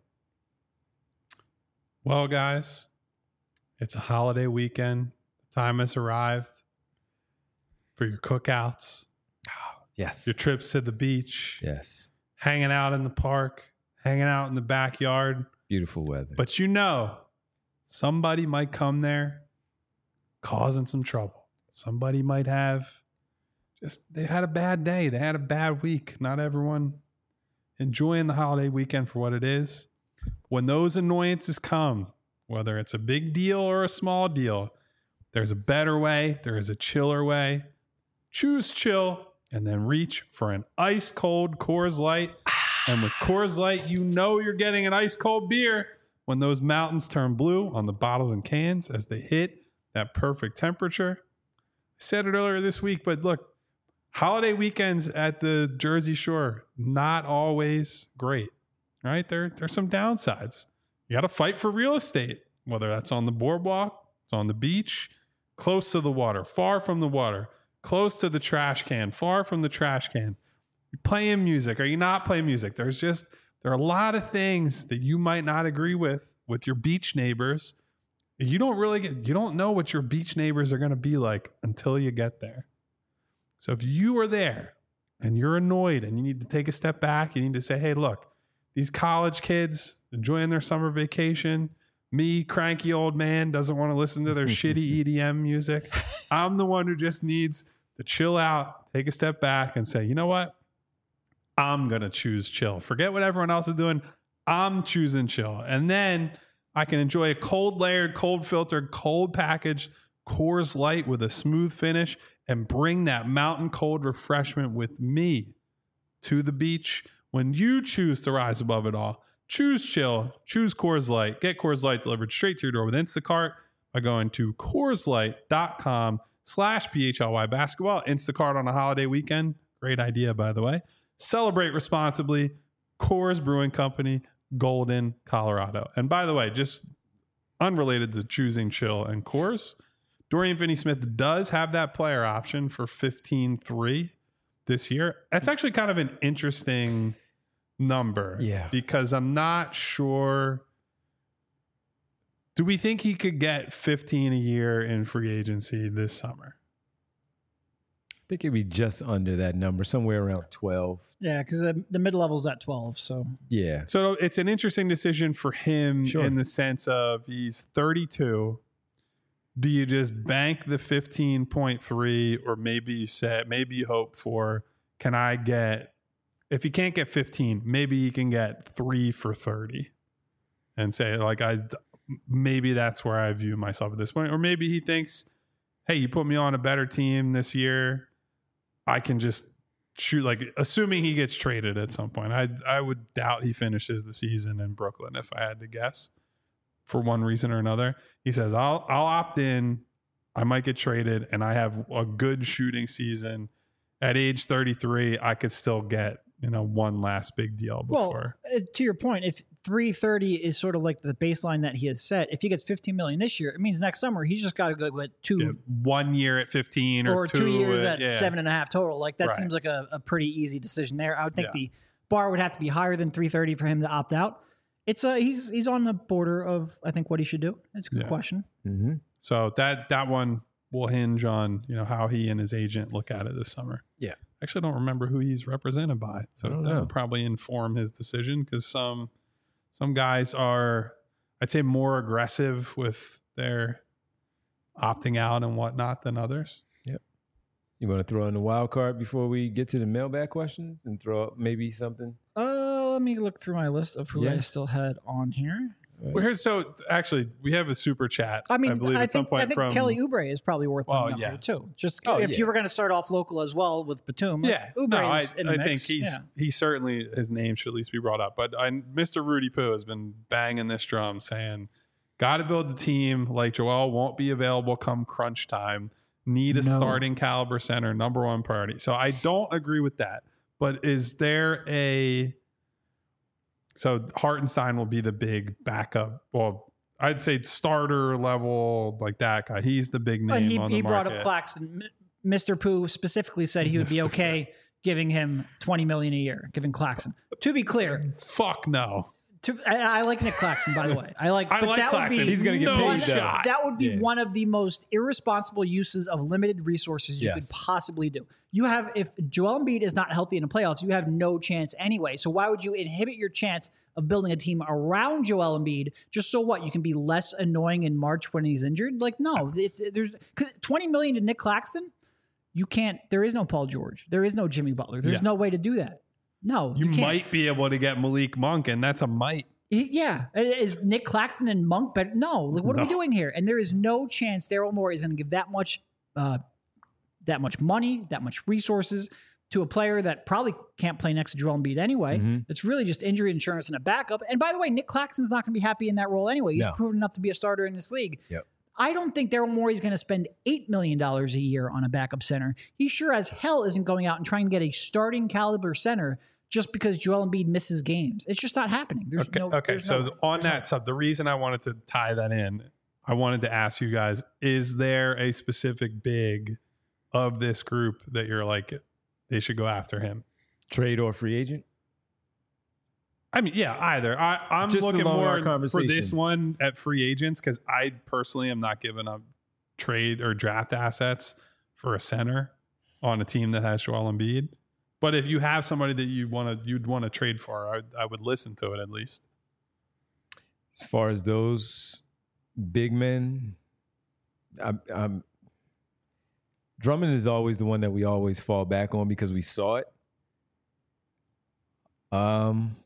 Well, guys, it's a holiday weekend. The time has arrived for your cookouts, Yes. your trips to the beach, Yes. hanging out in the park, hanging out in the backyard. Beautiful weather. But you know, somebody might come there causing some trouble. Somebody might have just, they had a bad day. They had a bad week. Not everyone enjoying the holiday weekend for what it is. When those annoyances come, whether it's a big deal or a small deal, there's a better way. There is a chiller way. Choose chill and then reach for an ice cold Coors Light. And with Coors Light, you know you're getting an ice cold beer when those mountains turn blue on the bottles and cans as they hit that perfect temperature. I said it earlier this week, but look, holiday weekends at the Jersey Shore, not always great, right? There, there's some downsides. You got to fight for real estate, whether that's on the boardwalk, it's on the beach, close to the water, far from the water, close to the trash can, far from the trash can. You're playing music. Are you not playing music? There's just, there are a lot of things that you might not agree with, with your beach neighbors. You don't really get, you don't know what your beach neighbors are going to be like until you get there. So if you are there and you're annoyed and you need to take a step back, you need to say, hey, look, these college kids enjoying their summer vacation, me, cranky old man, doesn't want to listen to their shitty E D M music. I'm the one who just needs to chill out, take a step back and say, you know what? I'm going to choose chill. Forget what everyone else is doing. I'm choosing chill. And then I can enjoy a cold layered, cold filtered, cold packaged Coors Light with a smooth finish and bring that mountain cold refreshment with me to the beach. When you choose to rise above it all, choose chill, choose Coors Light, get Coors Light delivered straight to your door with Instacart by going to CoorsLight.com slash PHLY basketball. Instacart on a holiday weekend. Great idea, by the way. Celebrate responsibly. Coors Brewing Company, Golden, Colorado. And by the way, just unrelated to choosing chill and Coors, Dorian Finney-Smith does have that player option for fifteen three this year. That's actually kind of an interesting number. Yeah. Because I'm not sure. Do we think he could get fifteen a year in free agency this summer? I think it'd be just under that number, somewhere around twelve. Yeah, because the, the mid level's at twelve. So Yeah. So it's an interesting decision for him Sure. in the sense of he's thirty-two. Do you just bank the fifteen point three, or maybe you say, maybe you hope for, can I get, if you can't get fifteen, maybe you can get three for thirty and say, like, I, maybe that's where I view myself at this point. Or maybe he thinks, hey, you put me on a better team this year, I can just shoot, like, assuming he gets traded at some point. I I would doubt he finishes the season in Brooklyn if I had to guess, for one reason or another. He says, I'll I'll opt in. I might get traded, and I have a good shooting season. At age thirty-three, I could still get, you know, one last big deal before. Well, uh, to your point, if three thirty is sort of like the baseline that he has set, if he gets fifteen million this year, it means next summer he's just got to go with two, Yeah, one year at fifteen or, or two, two years at, at yeah. seven and a half total. Like that Right. seems like a, a pretty easy decision there. I would think Yeah. the bar would have to be higher than three thirty for him to opt out. It's a he's he's on the border of I think what he should do. It's a good Yeah. question. Mm-hmm. So that that one will hinge on, you know, how he and his agent look at it this summer. Yeah. I actually don't remember who he's represented by, so I that don't know. would probably inform his decision, because some some guys are, I'd say, more aggressive with their opting out and whatnot than others. You want to throw in the wild card before we get to the mailbag questions and throw up maybe something? Uh, let me look through my list of who Yeah. I still had on here. Well, here's so actually we have a super chat. I mean, I believe I at some think, point I think from Kelly Oubre is probably worth Oh, bringing up yeah. here too. Just Oh, if yeah. you were going to start off local as well with Batum, like, Yeah, Oubre no, I, is in the I think mix. he's Yeah. he certainly, his name should at least be brought up. But I, Mister Rudy Poo has been banging this drum, saying, "Got to build the team. Like Joel won't be available come crunch time. Need a No. starting caliber center, number one priority." So I don't agree with that. But is there a so Hartenstein will be the big backup? Well, I'd say starter level, like that guy. He's the big name And he, on the he brought market. up Claxton. M- Mister Pooh specifically said he would be Mister okay giving him twenty million dollars a year, giving Claxton. To be clear, Fuck no. to, I, I like Nick Claxton, by the way. I like. I but like that Claxton. Would be He's gonna get no paid, though. shot. That would be Yeah. one of the most irresponsible uses of limited resources you Yes. could possibly do. You have, if Joel Embiid is not healthy in the playoffs, you have no chance anyway. So why would you inhibit your chance of building a team around Joel Embiid just so what? You can be less annoying in March when he's injured? Like, no, it's, there's because twenty million to Nick Claxton, you can't. There is no Paul George. There is no Jimmy Butler. There's Yeah. no way to do that. No, You, you, can't. might be able to get Malik Monk, and that's a might. He- Yeah. Is Nick Claxton and Monk better? No. Like, what are we No. doing here? And there is no chance Daryl Morey is going to give that much, uh, that much money, that much resources to a player that probably can't play next to Joel Embiid anyway. Mhm. It's really just injury insurance and a backup. And by the way, Nick Claxton's not going to be happy in that role anyway. He's No. proven enough to be a starter in this league. Yep. I don't think Daryl Morey is going to spend eight million dollars a year on a backup center. He sure as hell isn't going out and trying to get a starting caliber center just because Joel Embiid misses games. It's just not happening. There's Okay, no. okay. there's So no- on there's no- that stuff, the reason I wanted to tie that in, I wanted to ask you guys: is there a specific big of this group that you're like they should go after him? Trade or free agent? I mean, yeah, either. I, I'm Just looking along our more for conversation. this one at free agents because I personally am not giving up trade or draft assets for a center on a team that has Joel Embiid. But if you have somebody that you want to, you'd want to trade for, I, I would listen to it at least. As far as those big men, I'm, I'm, Drummond is always the one that we always fall back on because we saw it. Um,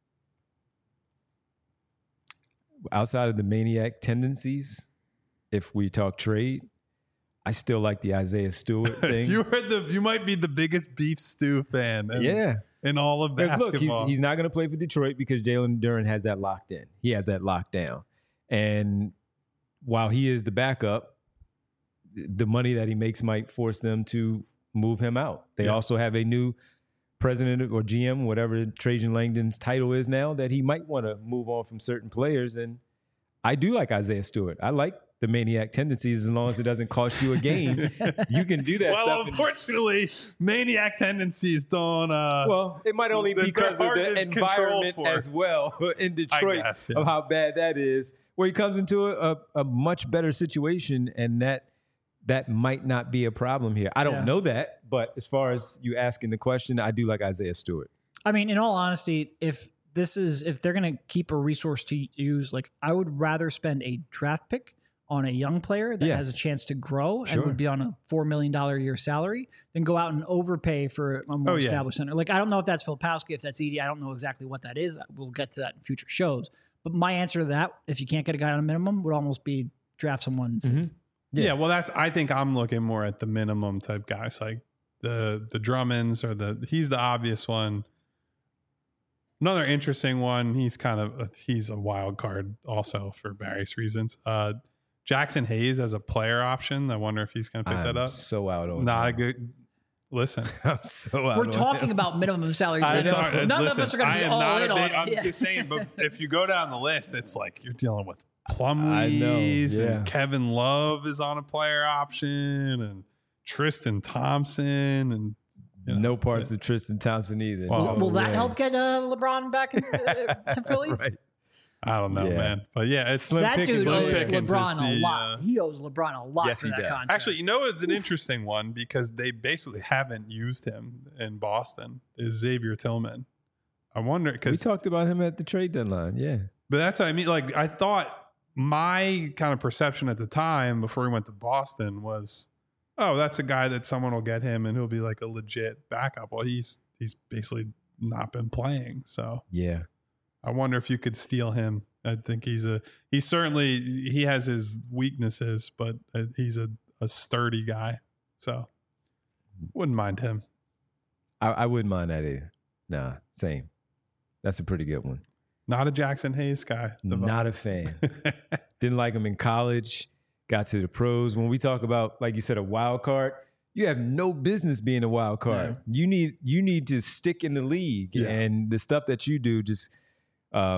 outside of the maniac tendencies, if we talk trade, I still like the Isaiah Stewart thing. you are the, you might be the biggest beef stew fan. In, yeah. in all of Because basketball. look, he's, he's not going to play for Detroit because Jalen Duren has that locked in. He has that locked down. And while he is the backup, the money that he makes might force them to move him out. They Yeah. also have a new president or G M, whatever Trajan Langdon's title is now, that he might want to move on from certain players. And I do like Isaiah Stewart. I like the maniac tendencies as long as it doesn't cost you a game. You can do that well, stuff. and- unfortunately, maniac tendencies don't. Uh, Well, it might only be They're because of hard the to environment control for. as well in Detroit guess, yeah. of how bad that is, where he comes into a, a, a much better situation, and that that might not be a problem here. I don't Yeah. know that, but as far as you asking the question, I do like Isaiah Stewart. I mean, in all honesty, if this is if they're going to keep a resource to use, like I would rather spend a draft pick on a young player that has Yes. a chance to grow Sure. and would be on a four million dollars a year salary than go out and overpay for a more Oh, yeah. established center. Like, I don't know if that's Filipowski, if that's Edie. I don't know exactly what that is. We'll get to that in future shows. But my answer to that, if you can't get a guy on a minimum, would almost be draft someone. and see. Mhm. Yeah. Yeah. well, that's. I think I'm looking more at the minimum type guys, like the the Drummonds or the. He's the obvious one. Another interesting one. He's kind of he's a wild card also for various reasons. Uh, Jackson Hayes as a player option. I wonder if he's going to pick I'm that up. so out on Not a him. good. Listen, I'm so out We're on talking him. about minimum salaries. I so know. None Listen, of us are going to I be am all not in a on big- it. I'm Yeah. just saying, but if you go down the list, it's like you're dealing with I know, Plumlees yeah. and Kevin Love is on a player option and Tristan Thompson and you know, no parts of Tristan Thompson either. Well, No Will that way. help get uh, LeBron back in, uh, to Philly? Right. I don't know, Yeah. man. But yeah, it's Slim That Pickens dude is owes there. Pickens LeBron is a the, lot. uh, he owes LeBron a lot Yes, for he that does. contract. actually, you know, it's an interesting one because they basically haven't used him in Boston. Is Xavier Tillman? I wonder We because, talked about him at the trade deadline. Yeah. but that's what I mean. Like, I thought my kind of perception at the time before he went to Boston was, oh, that's a guy that someone will get him and he'll be like a legit backup. Well, he's he's basically not been playing, so Yeah. I wonder if you could steal him. I think he's a he's certainly he has his weaknesses, but uh, he's a, a sturdy guy, so wouldn't mind him. I, I wouldn't mind that either. Nah, same. That's a pretty good one. Not a Jackson Hayes guy. Not a fan. Didn't like him in college. Got to the pros. When we talk about, like you said, a wild card, you have no business being a wild card. You need you need to stick in the league, Yeah. and the stuff that you do just um,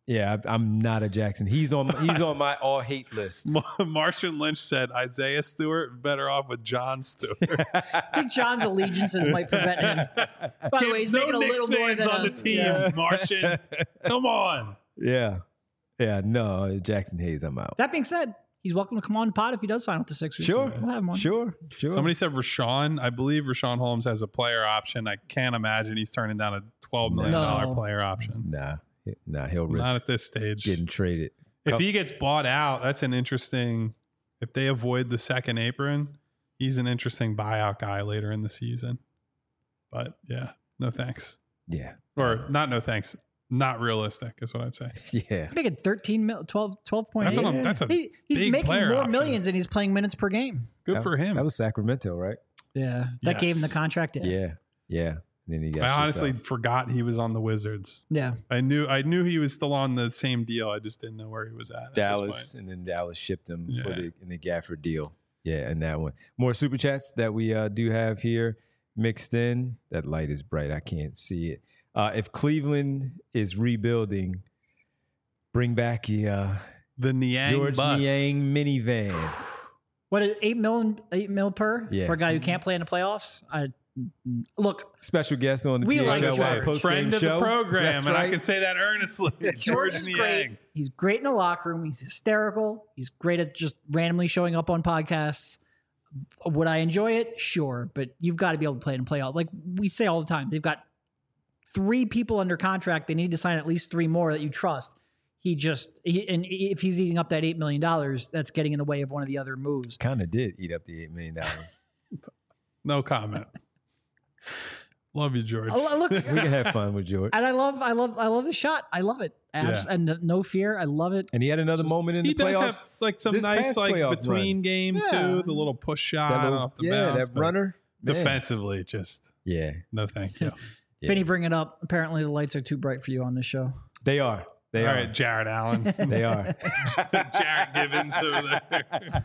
Yeah, I, I'm not a Jackson. He's on he's on my all hate list. Martian Lynch said Isaiah Stewart better off with John Stewart. I think John's allegiances might prevent him. By the way, he's no making a Knicks little more fans than on a, the team, yeah. Martian. Come on. Yeah. Yeah, no, Jackson Hayes, I'm out. That being said, he's welcome to come on the pod if he does sign with the Sixers. Sure. We'll have him on. Sure. Sure. Somebody said Rashawn. I believe Rashawn Holmes has a player option. I can't imagine he's turning down a twelve million dollars No. player option. Nah. Nah, he'll risk Not at this stage. getting traded. If he gets bought out, that's an interesting. If they avoid the second apron, he's an interesting buyout guy later in the season. But yeah, no thanks. Yeah. Or not no thanks. Not realistic is what I'd say. Yeah. He's making thirteen mil, twelve, twelve point eight. That's, what I'm- that's a He, he's big making player more option. millions and he's playing minutes per game. Good That- for him. That was Sacramento, right? Yeah. That Yes. gave him the contract. Yeah. Yeah. Yeah. And then he got I shipped honestly off. forgot he was on the Wizards. Yeah. I knew I knew he was still on the same deal. I just didn't know where he was at. at this Dallas, point. and then Dallas shipped him for Yeah. the in the Gafford deal. Yeah, and that one. More super chats that we uh, do have here mixed in. That light is bright. I can't see it. Uh, if Cleveland is rebuilding, bring back the uh, The Niang George bus. Niang minivan. What is eight mil, eight mil per Yeah. for a guy who can't play in the playoffs? I look, Special guest on the We like P H L Y George. post Friend of show. the program, That's and I right. can say that earnestly. George George is Niang. great. He's great in the locker room. He's hysterical. He's great at just randomly showing up on podcasts. Would I enjoy it? Sure, but you've got to be able to play it and play out. Like we say all the time, they've got three people under contract. They need to sign at least three more that you trust. He just, he, and if he's eating up that eight million dollars, that's getting in the way of one of the other moves. Kind of did eat up the eight million dollars. No comment. Love you, George. I lo- Look, We can have fun with George. and I love, I love, I love the shot. I love it. Abs- Yeah. And no fear. I love it. And he had another Just- moment in he the does playoffs. have like some this nice past like playoff between run. game Yeah. too, the little push shot That little- off the yeah, bounce. that but runner. Man. Defensively, just Yeah, no thank you. yeah. Finny, bring it up. Apparently, the lights are too bright for you on this show. They are. They All are. right, Jared Allen. They are. Jared Gibbons over there.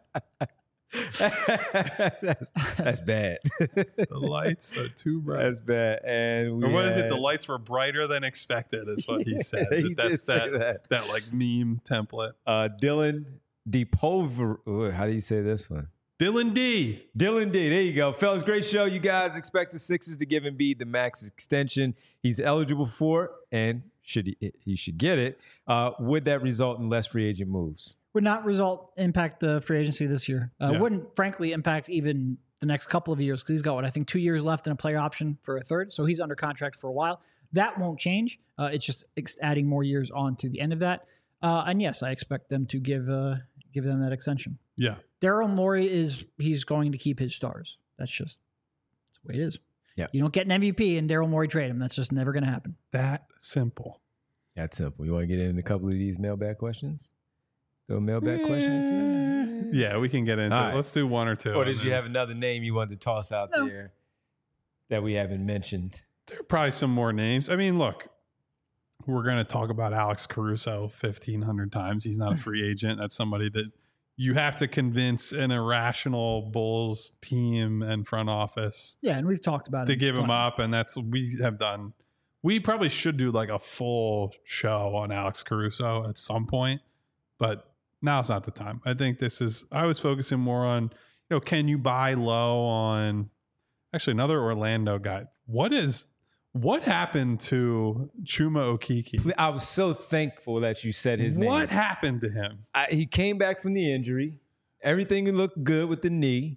that's, that's bad. The lights are too bright. That's bad. And we Or what is it? had- The lights were brighter than expected, is what he said. He That's did say that, that. that like meme template. Uh, Dylan DePulver. Ooh, how do you say this one? Dylan D. Dylan D. There you go. Fellas, great show. You guys expect the Sixers to give Embiid the max extension he's eligible for, and should he, he should get it. Uh, would that result in less free agent moves? Would not result impact the free agency this year. Uh, Yeah. Wouldn't frankly impact even the next couple of years because he's got what I think two years left and a player option for a third, so he's under contract for a while. That won't change. Uh, it's just ex- adding more years on to the end of that. Uh, and yes, I expect them to give uh, give them that extension. Yeah. Daryl Morey is he's going to keep his stars. That's just that's the way it is. Yeah. You don't get an M V P and Daryl Morey trade him. That's just never going to happen. That simple. That's simple. You want to get into a couple of these mailbag questions? Throw a mailbag question into it? Yeah, we can get into All it. right. Let's do one or two. Or and did you then- have another name you wanted to toss out No. there that we haven't mentioned? There are probably some more names. I mean, look, we're going to talk about Alex Caruso fifteen hundred times. He's not a free agent. That's somebody that you have to convince an irrational Bulls team and front office Yeah, and we've talked about to it give him plenty. up. And that's, we have done, we probably should do like a full show on Alex Caruso at some point, but now's not the time. I think this is, I was focusing more on, you know, can you buy low on actually another Orlando guy? What is, what happened to Chuma Okeke? I was so thankful that you said his name. What happened to him? I, he came back from the injury. Everything looked good with the knee.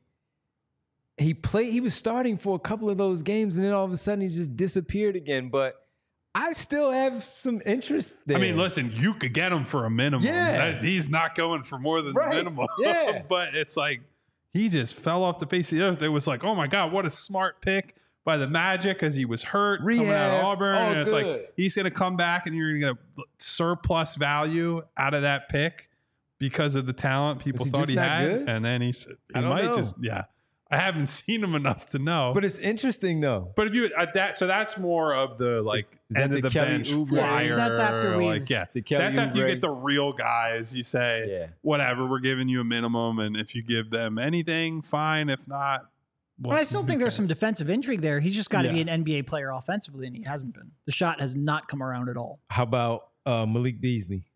He played. He was starting for a couple of those games, and then all of a sudden he just disappeared again. But I still have some interest there. I mean, listen, you could get him for a minimum. Yeah. That- he's not going for more than Right. the minimum. Yeah. But it's like he just fell off the face of the earth. It was like, oh my God, what a smart pick by the Magic because he was hurt coming out Rehab. of Auburn. Oh, and it's good. like he's going to come back and you're going to get surplus value out of that pick because of the talent people he thought just he not had. good? And then he's, he I don't might know. just, yeah. I haven't seen him enough to know. but it's interesting though. But if you at that, so that's more of the like Is that end the of the Kelly bench Oubre? flyer. That's after we've- like yeah, The Kelly that's after you Oubre. get the real guys. You say Yeah. whatever, we're giving you a minimum, and if you give them anything, fine. If not, But I still think there's some defensive intrigue there. He's just got to be Yeah. an N B A player offensively, and he hasn't been. The shot has not come around at all. How about Uh, Malik Beasley.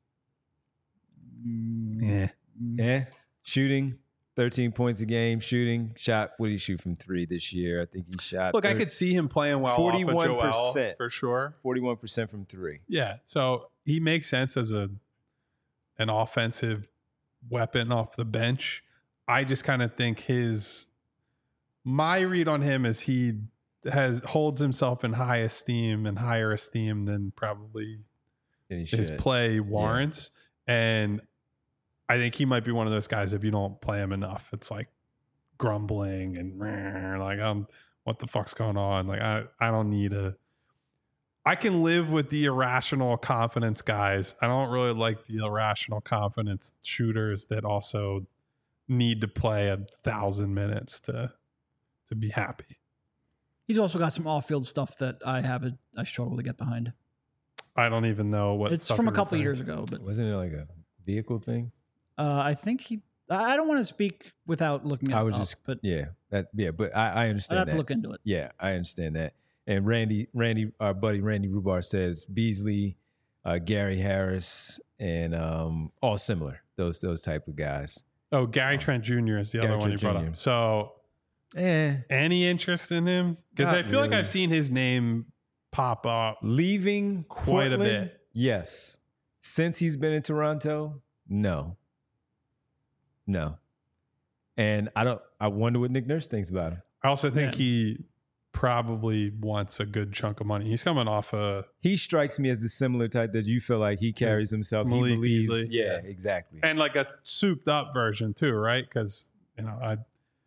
Yeah. Yeah. Shooting, thirteen points a game. Shooting, shot, what did he shoot from three this year? I think he shot. Look, I could see him playing well forty-one off of Joel percent. for sure. forty-one percent from three. Yeah. So he makes sense as a an offensive weapon off the bench. I just kind of think his my read on him is he has holds himself in high esteem and higher esteem than probably And he his should. play warrants. And I think he might be one of those guys, if you don't play him enough, it's like grumbling and like, um, what the fuck's going on? Like, I, I don't need a, I can live with the irrational confidence guys. I don't really like the irrational confidence shooters that also need to play a thousand minutes to, to be happy. He's also got some off-field stuff that I have a, I struggle to get behind. I don't even know what It's stuff from a you're couple referring years to. ago, but Wasn't it like a vehicle thing? uh, I think he. I don't want to speak without looking at I it was up, just, but yeah, that, yeah, but I, I I'd understand have that. to look into it. Yeah, I understand that. And Randy, Randy, our buddy Randy Rubar says Beasley, uh, Gary Harris, and um, all similar. Those those type of guys. Oh, Gary Trent Junior is the Gary other one you Trent brought Junior up. So Eh, any interest in him? Because I Not feel like really. I've seen his name pop up. leaving Quite a Portland, bit. Yes. Since he's been in Toronto, no, no. And I don't. I wonder what Nick Nurse thinks about him. I also think Yeah. he probably wants a good chunk of money. He's coming off a He strikes me as the similar type that you feel like he carries himself. Malik he believes. Beasley. Yeah, Yeah. exactly. and like a souped up version too, right? Because you know, I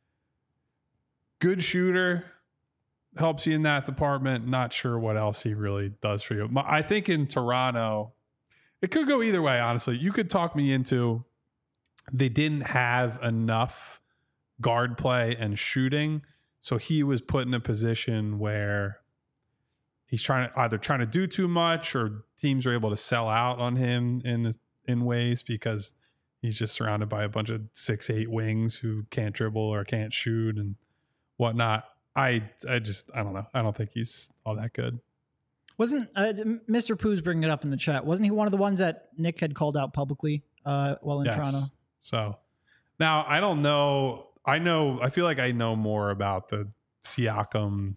good shooter helps you in that department. Not sure what else he really does for you. My- I think in Toronto, it could go either way. Honestly, you could talk me into they didn't have enough guard play and shooting, so he was put in a position where he's trying to either trying to do too much, or teams are able to sell out on him in in ways because he's just surrounded by a bunch of six eight wings who can't dribble or can't shoot and whatnot. I I just I don't know. I don't think he's all that good. Wasn't uh, Mister Pooh's bringing it up in the chat? Wasn't he one of the ones that Nick had called out publicly uh, while in Yes. Toronto? So now I don't know. I know. I feel like I know more about the Siakam,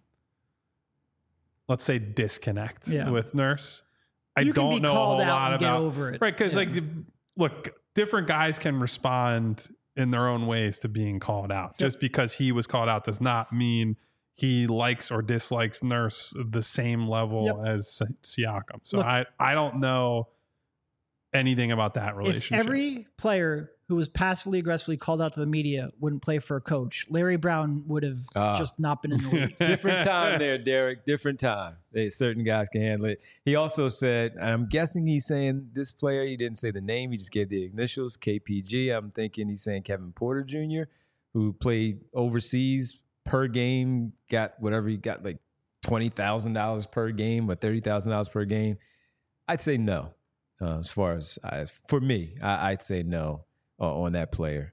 let's say, disconnect Yeah. with Nurse. I You can don't be know a called whole out lot and get about over it. right because Yeah. like look, different guys can respond in their own ways to being called out. Just because he was called out does not mean he likes or dislikes Nurse the same level Yep. as Siakam. So Look, I I don't know anything about that If relationship. every player who was passively aggressively called out to the media wouldn't play for a coach, Larry Brown would have Ah. just not been in the league. Different time there, Derek. Different time. They, certain guys can handle it. He also said, I'm guessing he's saying this player, he didn't say the name, he just gave the initials, K P G. I'm thinking he's saying Kevin Porter Junior, who played overseas per game, got whatever he got, like twenty thousand dollars per game or thirty thousand dollars per game. I'd say no. Uh, as far as, I, for me, I, I'd say no uh, on that player.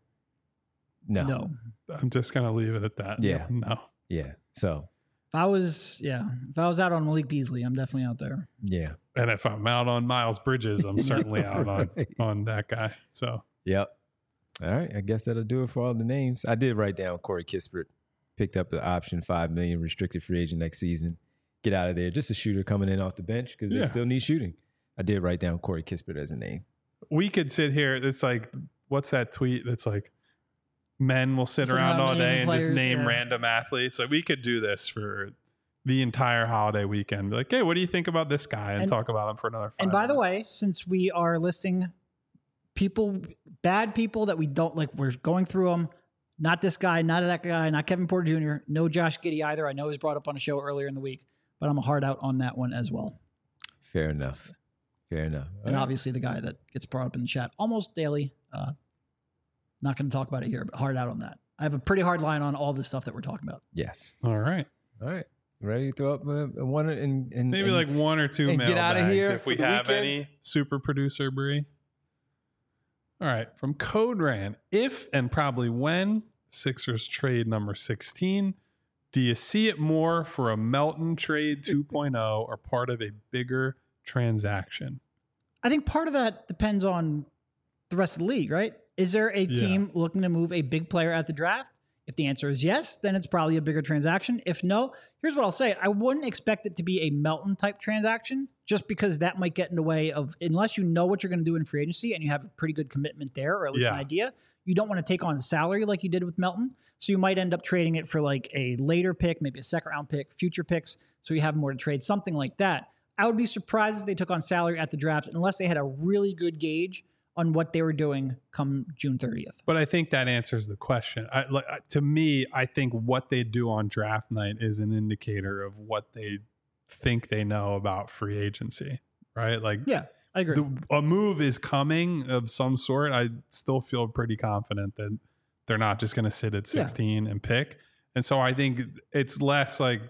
No. No. I'm just gonna leave it at that. Yeah. No. Yeah. So, If I was, yeah, if I was out on Malik Beasley, I'm definitely out there. yeah. And if I'm out on Miles Bridges, I'm certainly out on Right. on that guy. So Yep. All right. I guess that'll do it for all the names. I did write down Corey Kispert. Picked up the option, five million dollars restricted free agent next season. Get out of there. Just a shooter coming in off the bench because Yeah. they still need shooting. I did write down Corey Kispert as a name. we could sit here. It's like, what's that tweet that's like, men will sit Sit around around all day naming and just players, name yeah. random athletes. Like we could do this for the entire holiday weekend. Be like, hey, what do you think about this guy? And, And- talk about him for another five And by the minutes. way, since we are listing people, bad people that we don't like, we're going through them. Not this guy, not that guy, not Kevin Porter Junior, no Josh Giddey either. I know he was brought up on a show earlier in the week, but I'm a hard out on that one as well. Fair enough. Fair enough. All And right. obviously the guy that gets brought up in the chat almost daily. Uh, not going to talk about it here, but hard out on that. I have a pretty hard line on all the stuff that we're talking about. Yes. All right. All right. Ready to throw up uh, one and, and Maybe and- like one or two and get outta mailbags here if for we the have weekend. any. Super producer Bree. All right, from Code Ran. If and probably when Sixers trade number sixteen, do you see it more for a Melton trade two point oh or part of a bigger transaction? I think part of that depends on the rest of the league, right? Is there a team yeah. looking to move a big player at the draft? If the answer is yes, then it's probably a bigger transaction. If no, here's what I'll say. I wouldn't expect it to be a Melton type transaction just because that might get in the way of, unless you know what you're going to do in free agency and you have a pretty good commitment there, or at least yeah. an idea, you don't want to take on salary like you did with Melton. So you might end up trading it for like a later pick, maybe a second round pick, future picks. So you have more to trade, something like that. I would be surprised if they took on salary at the draft unless they had a really good gauge on what they were doing come June thirtieth. But I think that answers the question. I, like, to me, I think what they do on draft night is an indicator of what they think they know about free agency, right? Like, yeah, I agree. The, a move is coming of some sort. I still feel pretty confident that they're not just going to sit at sixteen yeah. and pick. And so I think it's, it's less like,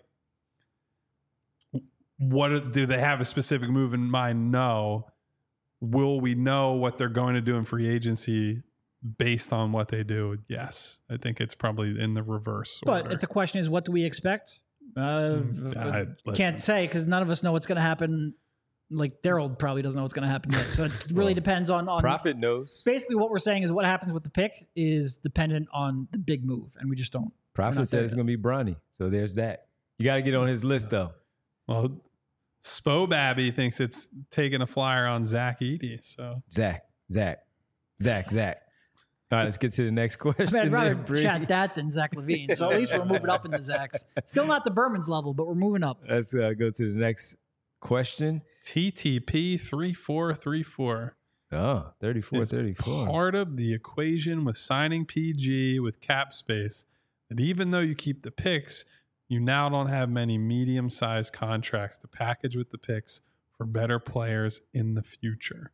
what do they have a specific move in mind? No. Will we know what they're going to do in free agency based on what they do? Yes. I think it's probably in the reverse but order. If the question is, what do we expect? Uh, I, can't say because none of us know what's going to happen. Like Daryl probably doesn't know what's going to happen yet. So it really well, depends on, on... Prophet knows. Basically what we're saying is what happens with the pick is dependent on the big move. And we just don't. Prophet said it's going to be Bronny. So there's that. You got to get on his list though. Well, Spo Babby thinks it's taking a flyer on Zach Edey. So Zach, Zach, Zach, Zach. All right, let's get to the next question. I mean, I'd rather chat that than Zach LaVine. So at least we're moving up in the Zachs. Still not the Berman's level, but we're moving up. Let's uh, go to the next question. T T P three four three four. Oh, thirty-four thirty-four. Part of the equation with signing P G with cap space that even though you keep the picks, you now don't have many medium-sized contracts to package with the picks for better players in the future.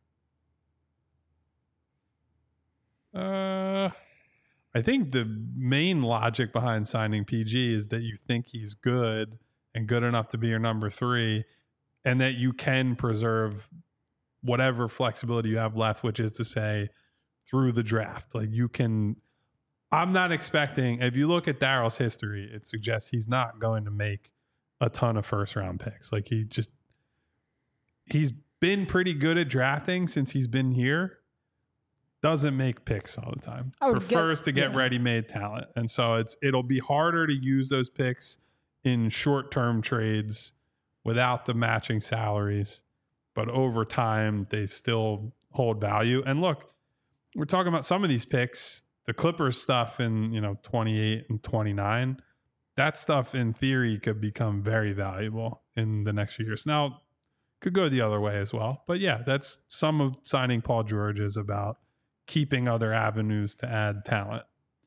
Uh, I think the main logic behind signing P G is that you think he's good and good enough to be your number three, and that you can preserve whatever flexibility you have left, which is to say through the draft. Like you can... I'm not expecting, if you look at Daryl's history, it suggests he's not going to make a ton of first round picks. Like he just, he's been pretty good at drafting since he's been here. Doesn't make picks all the time. Prefers get, to get yeah. ready-made talent. And so it's, it'll be harder to use those picks in short-term trades without the matching salaries. But over time, they still hold value. And look, we're talking about some of these picks. The Clippers stuff in, you know, twenty-eight and twenty-nine, that stuff in theory could become very valuable in the next few years. Now, could go the other way as well. But yeah, that's some of signing Paul George is about keeping other avenues to add talent.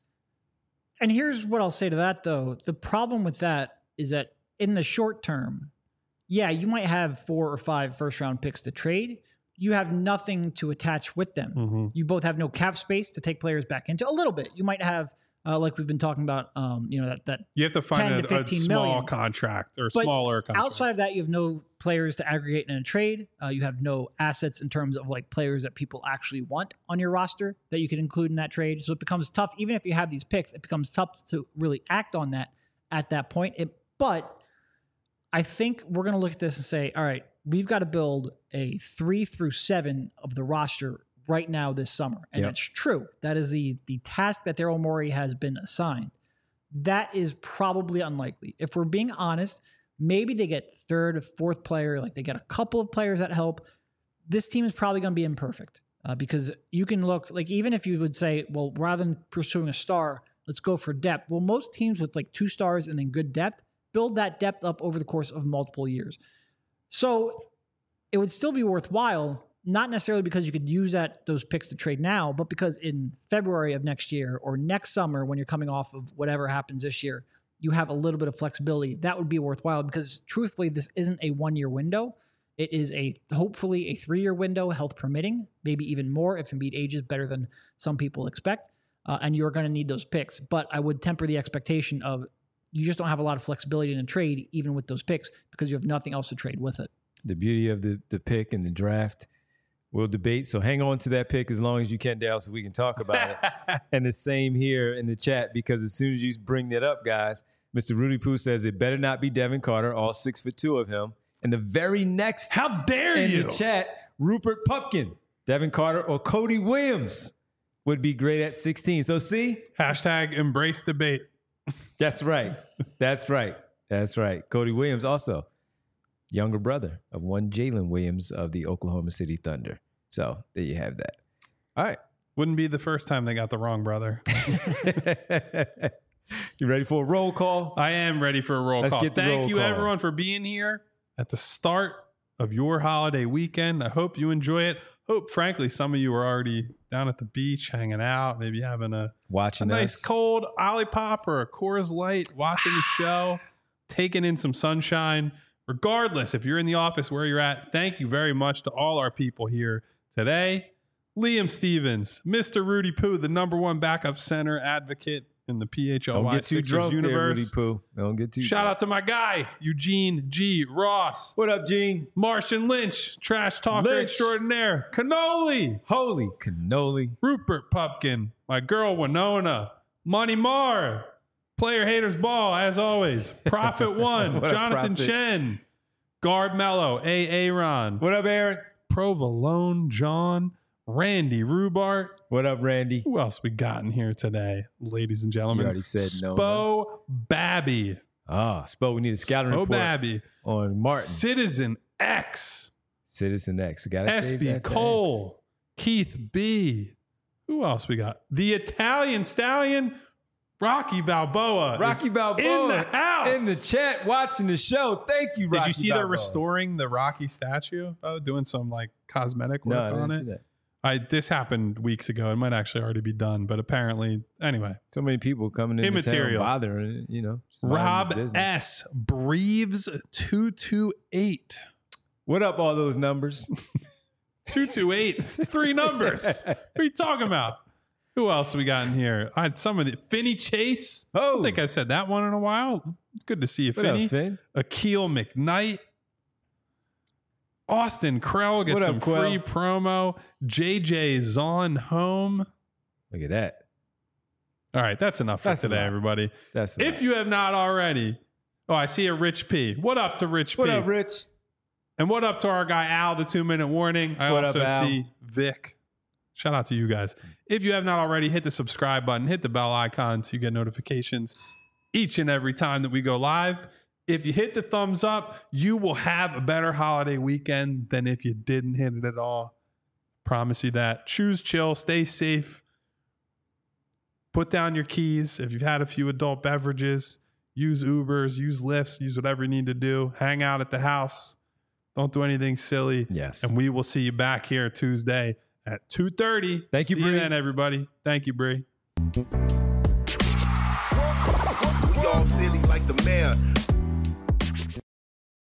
And here's what I'll say to that, though. The problem with that is that in the short term, yeah, you might have four or five first round picks to trade. You have nothing to attach with them. Mm-hmm. You both have no cap space to take players back into. A little bit. You might have, uh, like we've been talking about, um, you know, that that you have to find a, a small million. contract or but smaller contract. Outside of that, you have no players to aggregate in a trade. Uh, you have no assets in terms of like players that people actually want on your roster that you can include in that trade. So it becomes tough. Even if you have these picks, it becomes tough to really act on that at that point. It, but I think we're going to look at this and say, all right, we've got to build a three through seven of the roster right now this summer. And yep. That's true. That is the the task that Daryl Morey has been assigned. That is probably unlikely. If we're being honest, maybe they get third or fourth player, like they get a couple of players that help. This team is probably going to be imperfect uh, because you can look, like even if you would say, well, rather than pursuing a star, let's go for depth. Well, most teams with like two stars and then good depth build that depth up over the course of multiple years. So it would still be worthwhile, not necessarily because you could use that those picks to trade now, but because in February of next year or next summer when you're coming off of whatever happens this year, you have a little bit of flexibility. That would be worthwhile because truthfully, this isn't a one-year window. It is a hopefully a three-year window, health permitting, maybe even more if Embiid ages better than some people expect. Uh, and you're going to need those picks. But I would temper the expectation of you just don't have a lot of flexibility in a trade, even with those picks, because you have nothing else to trade with it. The beauty of the the pick and the draft, we'll debate. So hang on to that pick as long as you can, Dale, so we can talk about it. And the same here in the chat, because as soon as you bring that up, guys, Mister Rudy Poo says it better not be Devin Carter, all six foot two of him. And the very next, how dare in you? the chat, Rupert Pupkin, Devin Carter, or Cody Williams would be great at sixteen. So see, hashtag embrace debate. That's right. That's right. That's right. Cody Williams also younger brother of one Jalen Williams of the Oklahoma City Thunder. So there you have that. All right. Wouldn't be the first time they got the wrong brother. You ready for a roll call? I am ready for a roll Let's call. get the Thank roll you call. everyone for being here at the start of your holiday weekend. I hope you enjoy it. Hope, frankly, some of you are already down at the beach, hanging out, maybe having a, Watching a nice us. cold Olipop or a Coors Light, watching the show, taking in some sunshine. Regardless, if you're in the office where you're at, thank you very much to all our people here today. Liam Stevens, Mister Rudy Poo, the number one backup center advocate in the P H L Don't Y get too Sixers drunk universe. there, Rudy Poo. Don't get too Shout drunk. out to my guy, Eugene G. Ross. What up, Gene? Martian Lynch, trash talker Lynch. extraordinaire. Cannoli. Holy cannoli. Rupert Pupkin. My girl, Winona. Money Marr. Player Haters Ball, as always. Prophet One. What up, Jonathan Prophet? Chen. Guard Mello. A. Aaron. What up, Aaron? Provolone John. Randy Rubart. What up, Randy? Who else we got in here today, ladies and gentlemen? You already said no, Spo Babby. Ah, Spo, we need a scouting Spo report Babby. on Martin. Citizen X. Citizen X. Gotta S save B that for Cole, Keith B. Who else we got? The Italian Stallion, Rocky Balboa. X. Rocky is Balboa in the house. in the chat watching the show. Thank you, Rocky Did you see Balboa. they're restoring the Rocky statue? Oh, doing some like cosmetic No, work I didn't on see it. that. I this happened weeks ago. It might actually already be done, but apparently, anyway. So many people coming in Immaterial. town bothering it, you know. just minding Rob his business. S. Breves two two eight. What up, all those numbers? two two eight. It's three numbers. What are you talking about? Who else we got in here? I had some of the Finney Chase. I Oh, don't think I said that one in a while. It's good to see you, what Finney. up, Finn? Akil McKnight. Austin Krell gets What up, some Quell? free promo. J J Zon home. Look at that. All right, that's enough for That's today, enough. everybody. That's If you have not already, oh, I see a Rich P. What up to Rich what P? up, Rich? And what up to our guy Al, the two minute warning. I What up, also Al? see Vic. Shout out to you guys. If you have not already, hit the subscribe button, hit the bell icon so you get notifications each and every time that we go live. If you hit the thumbs up, you will have a better holiday weekend than if you didn't hit it at all. Promise you that. Choose chill, stay safe. Put down your keys. If you've had a few adult beverages, use Ubers, use Lyfts, use whatever you need to do. Hang out at the house. Don't do anything silly. Yes. And we will see you back here Tuesday at two thirty. Thank you, See Bree. you then, everybody. Thank you, Bree. We all silly like the mayor.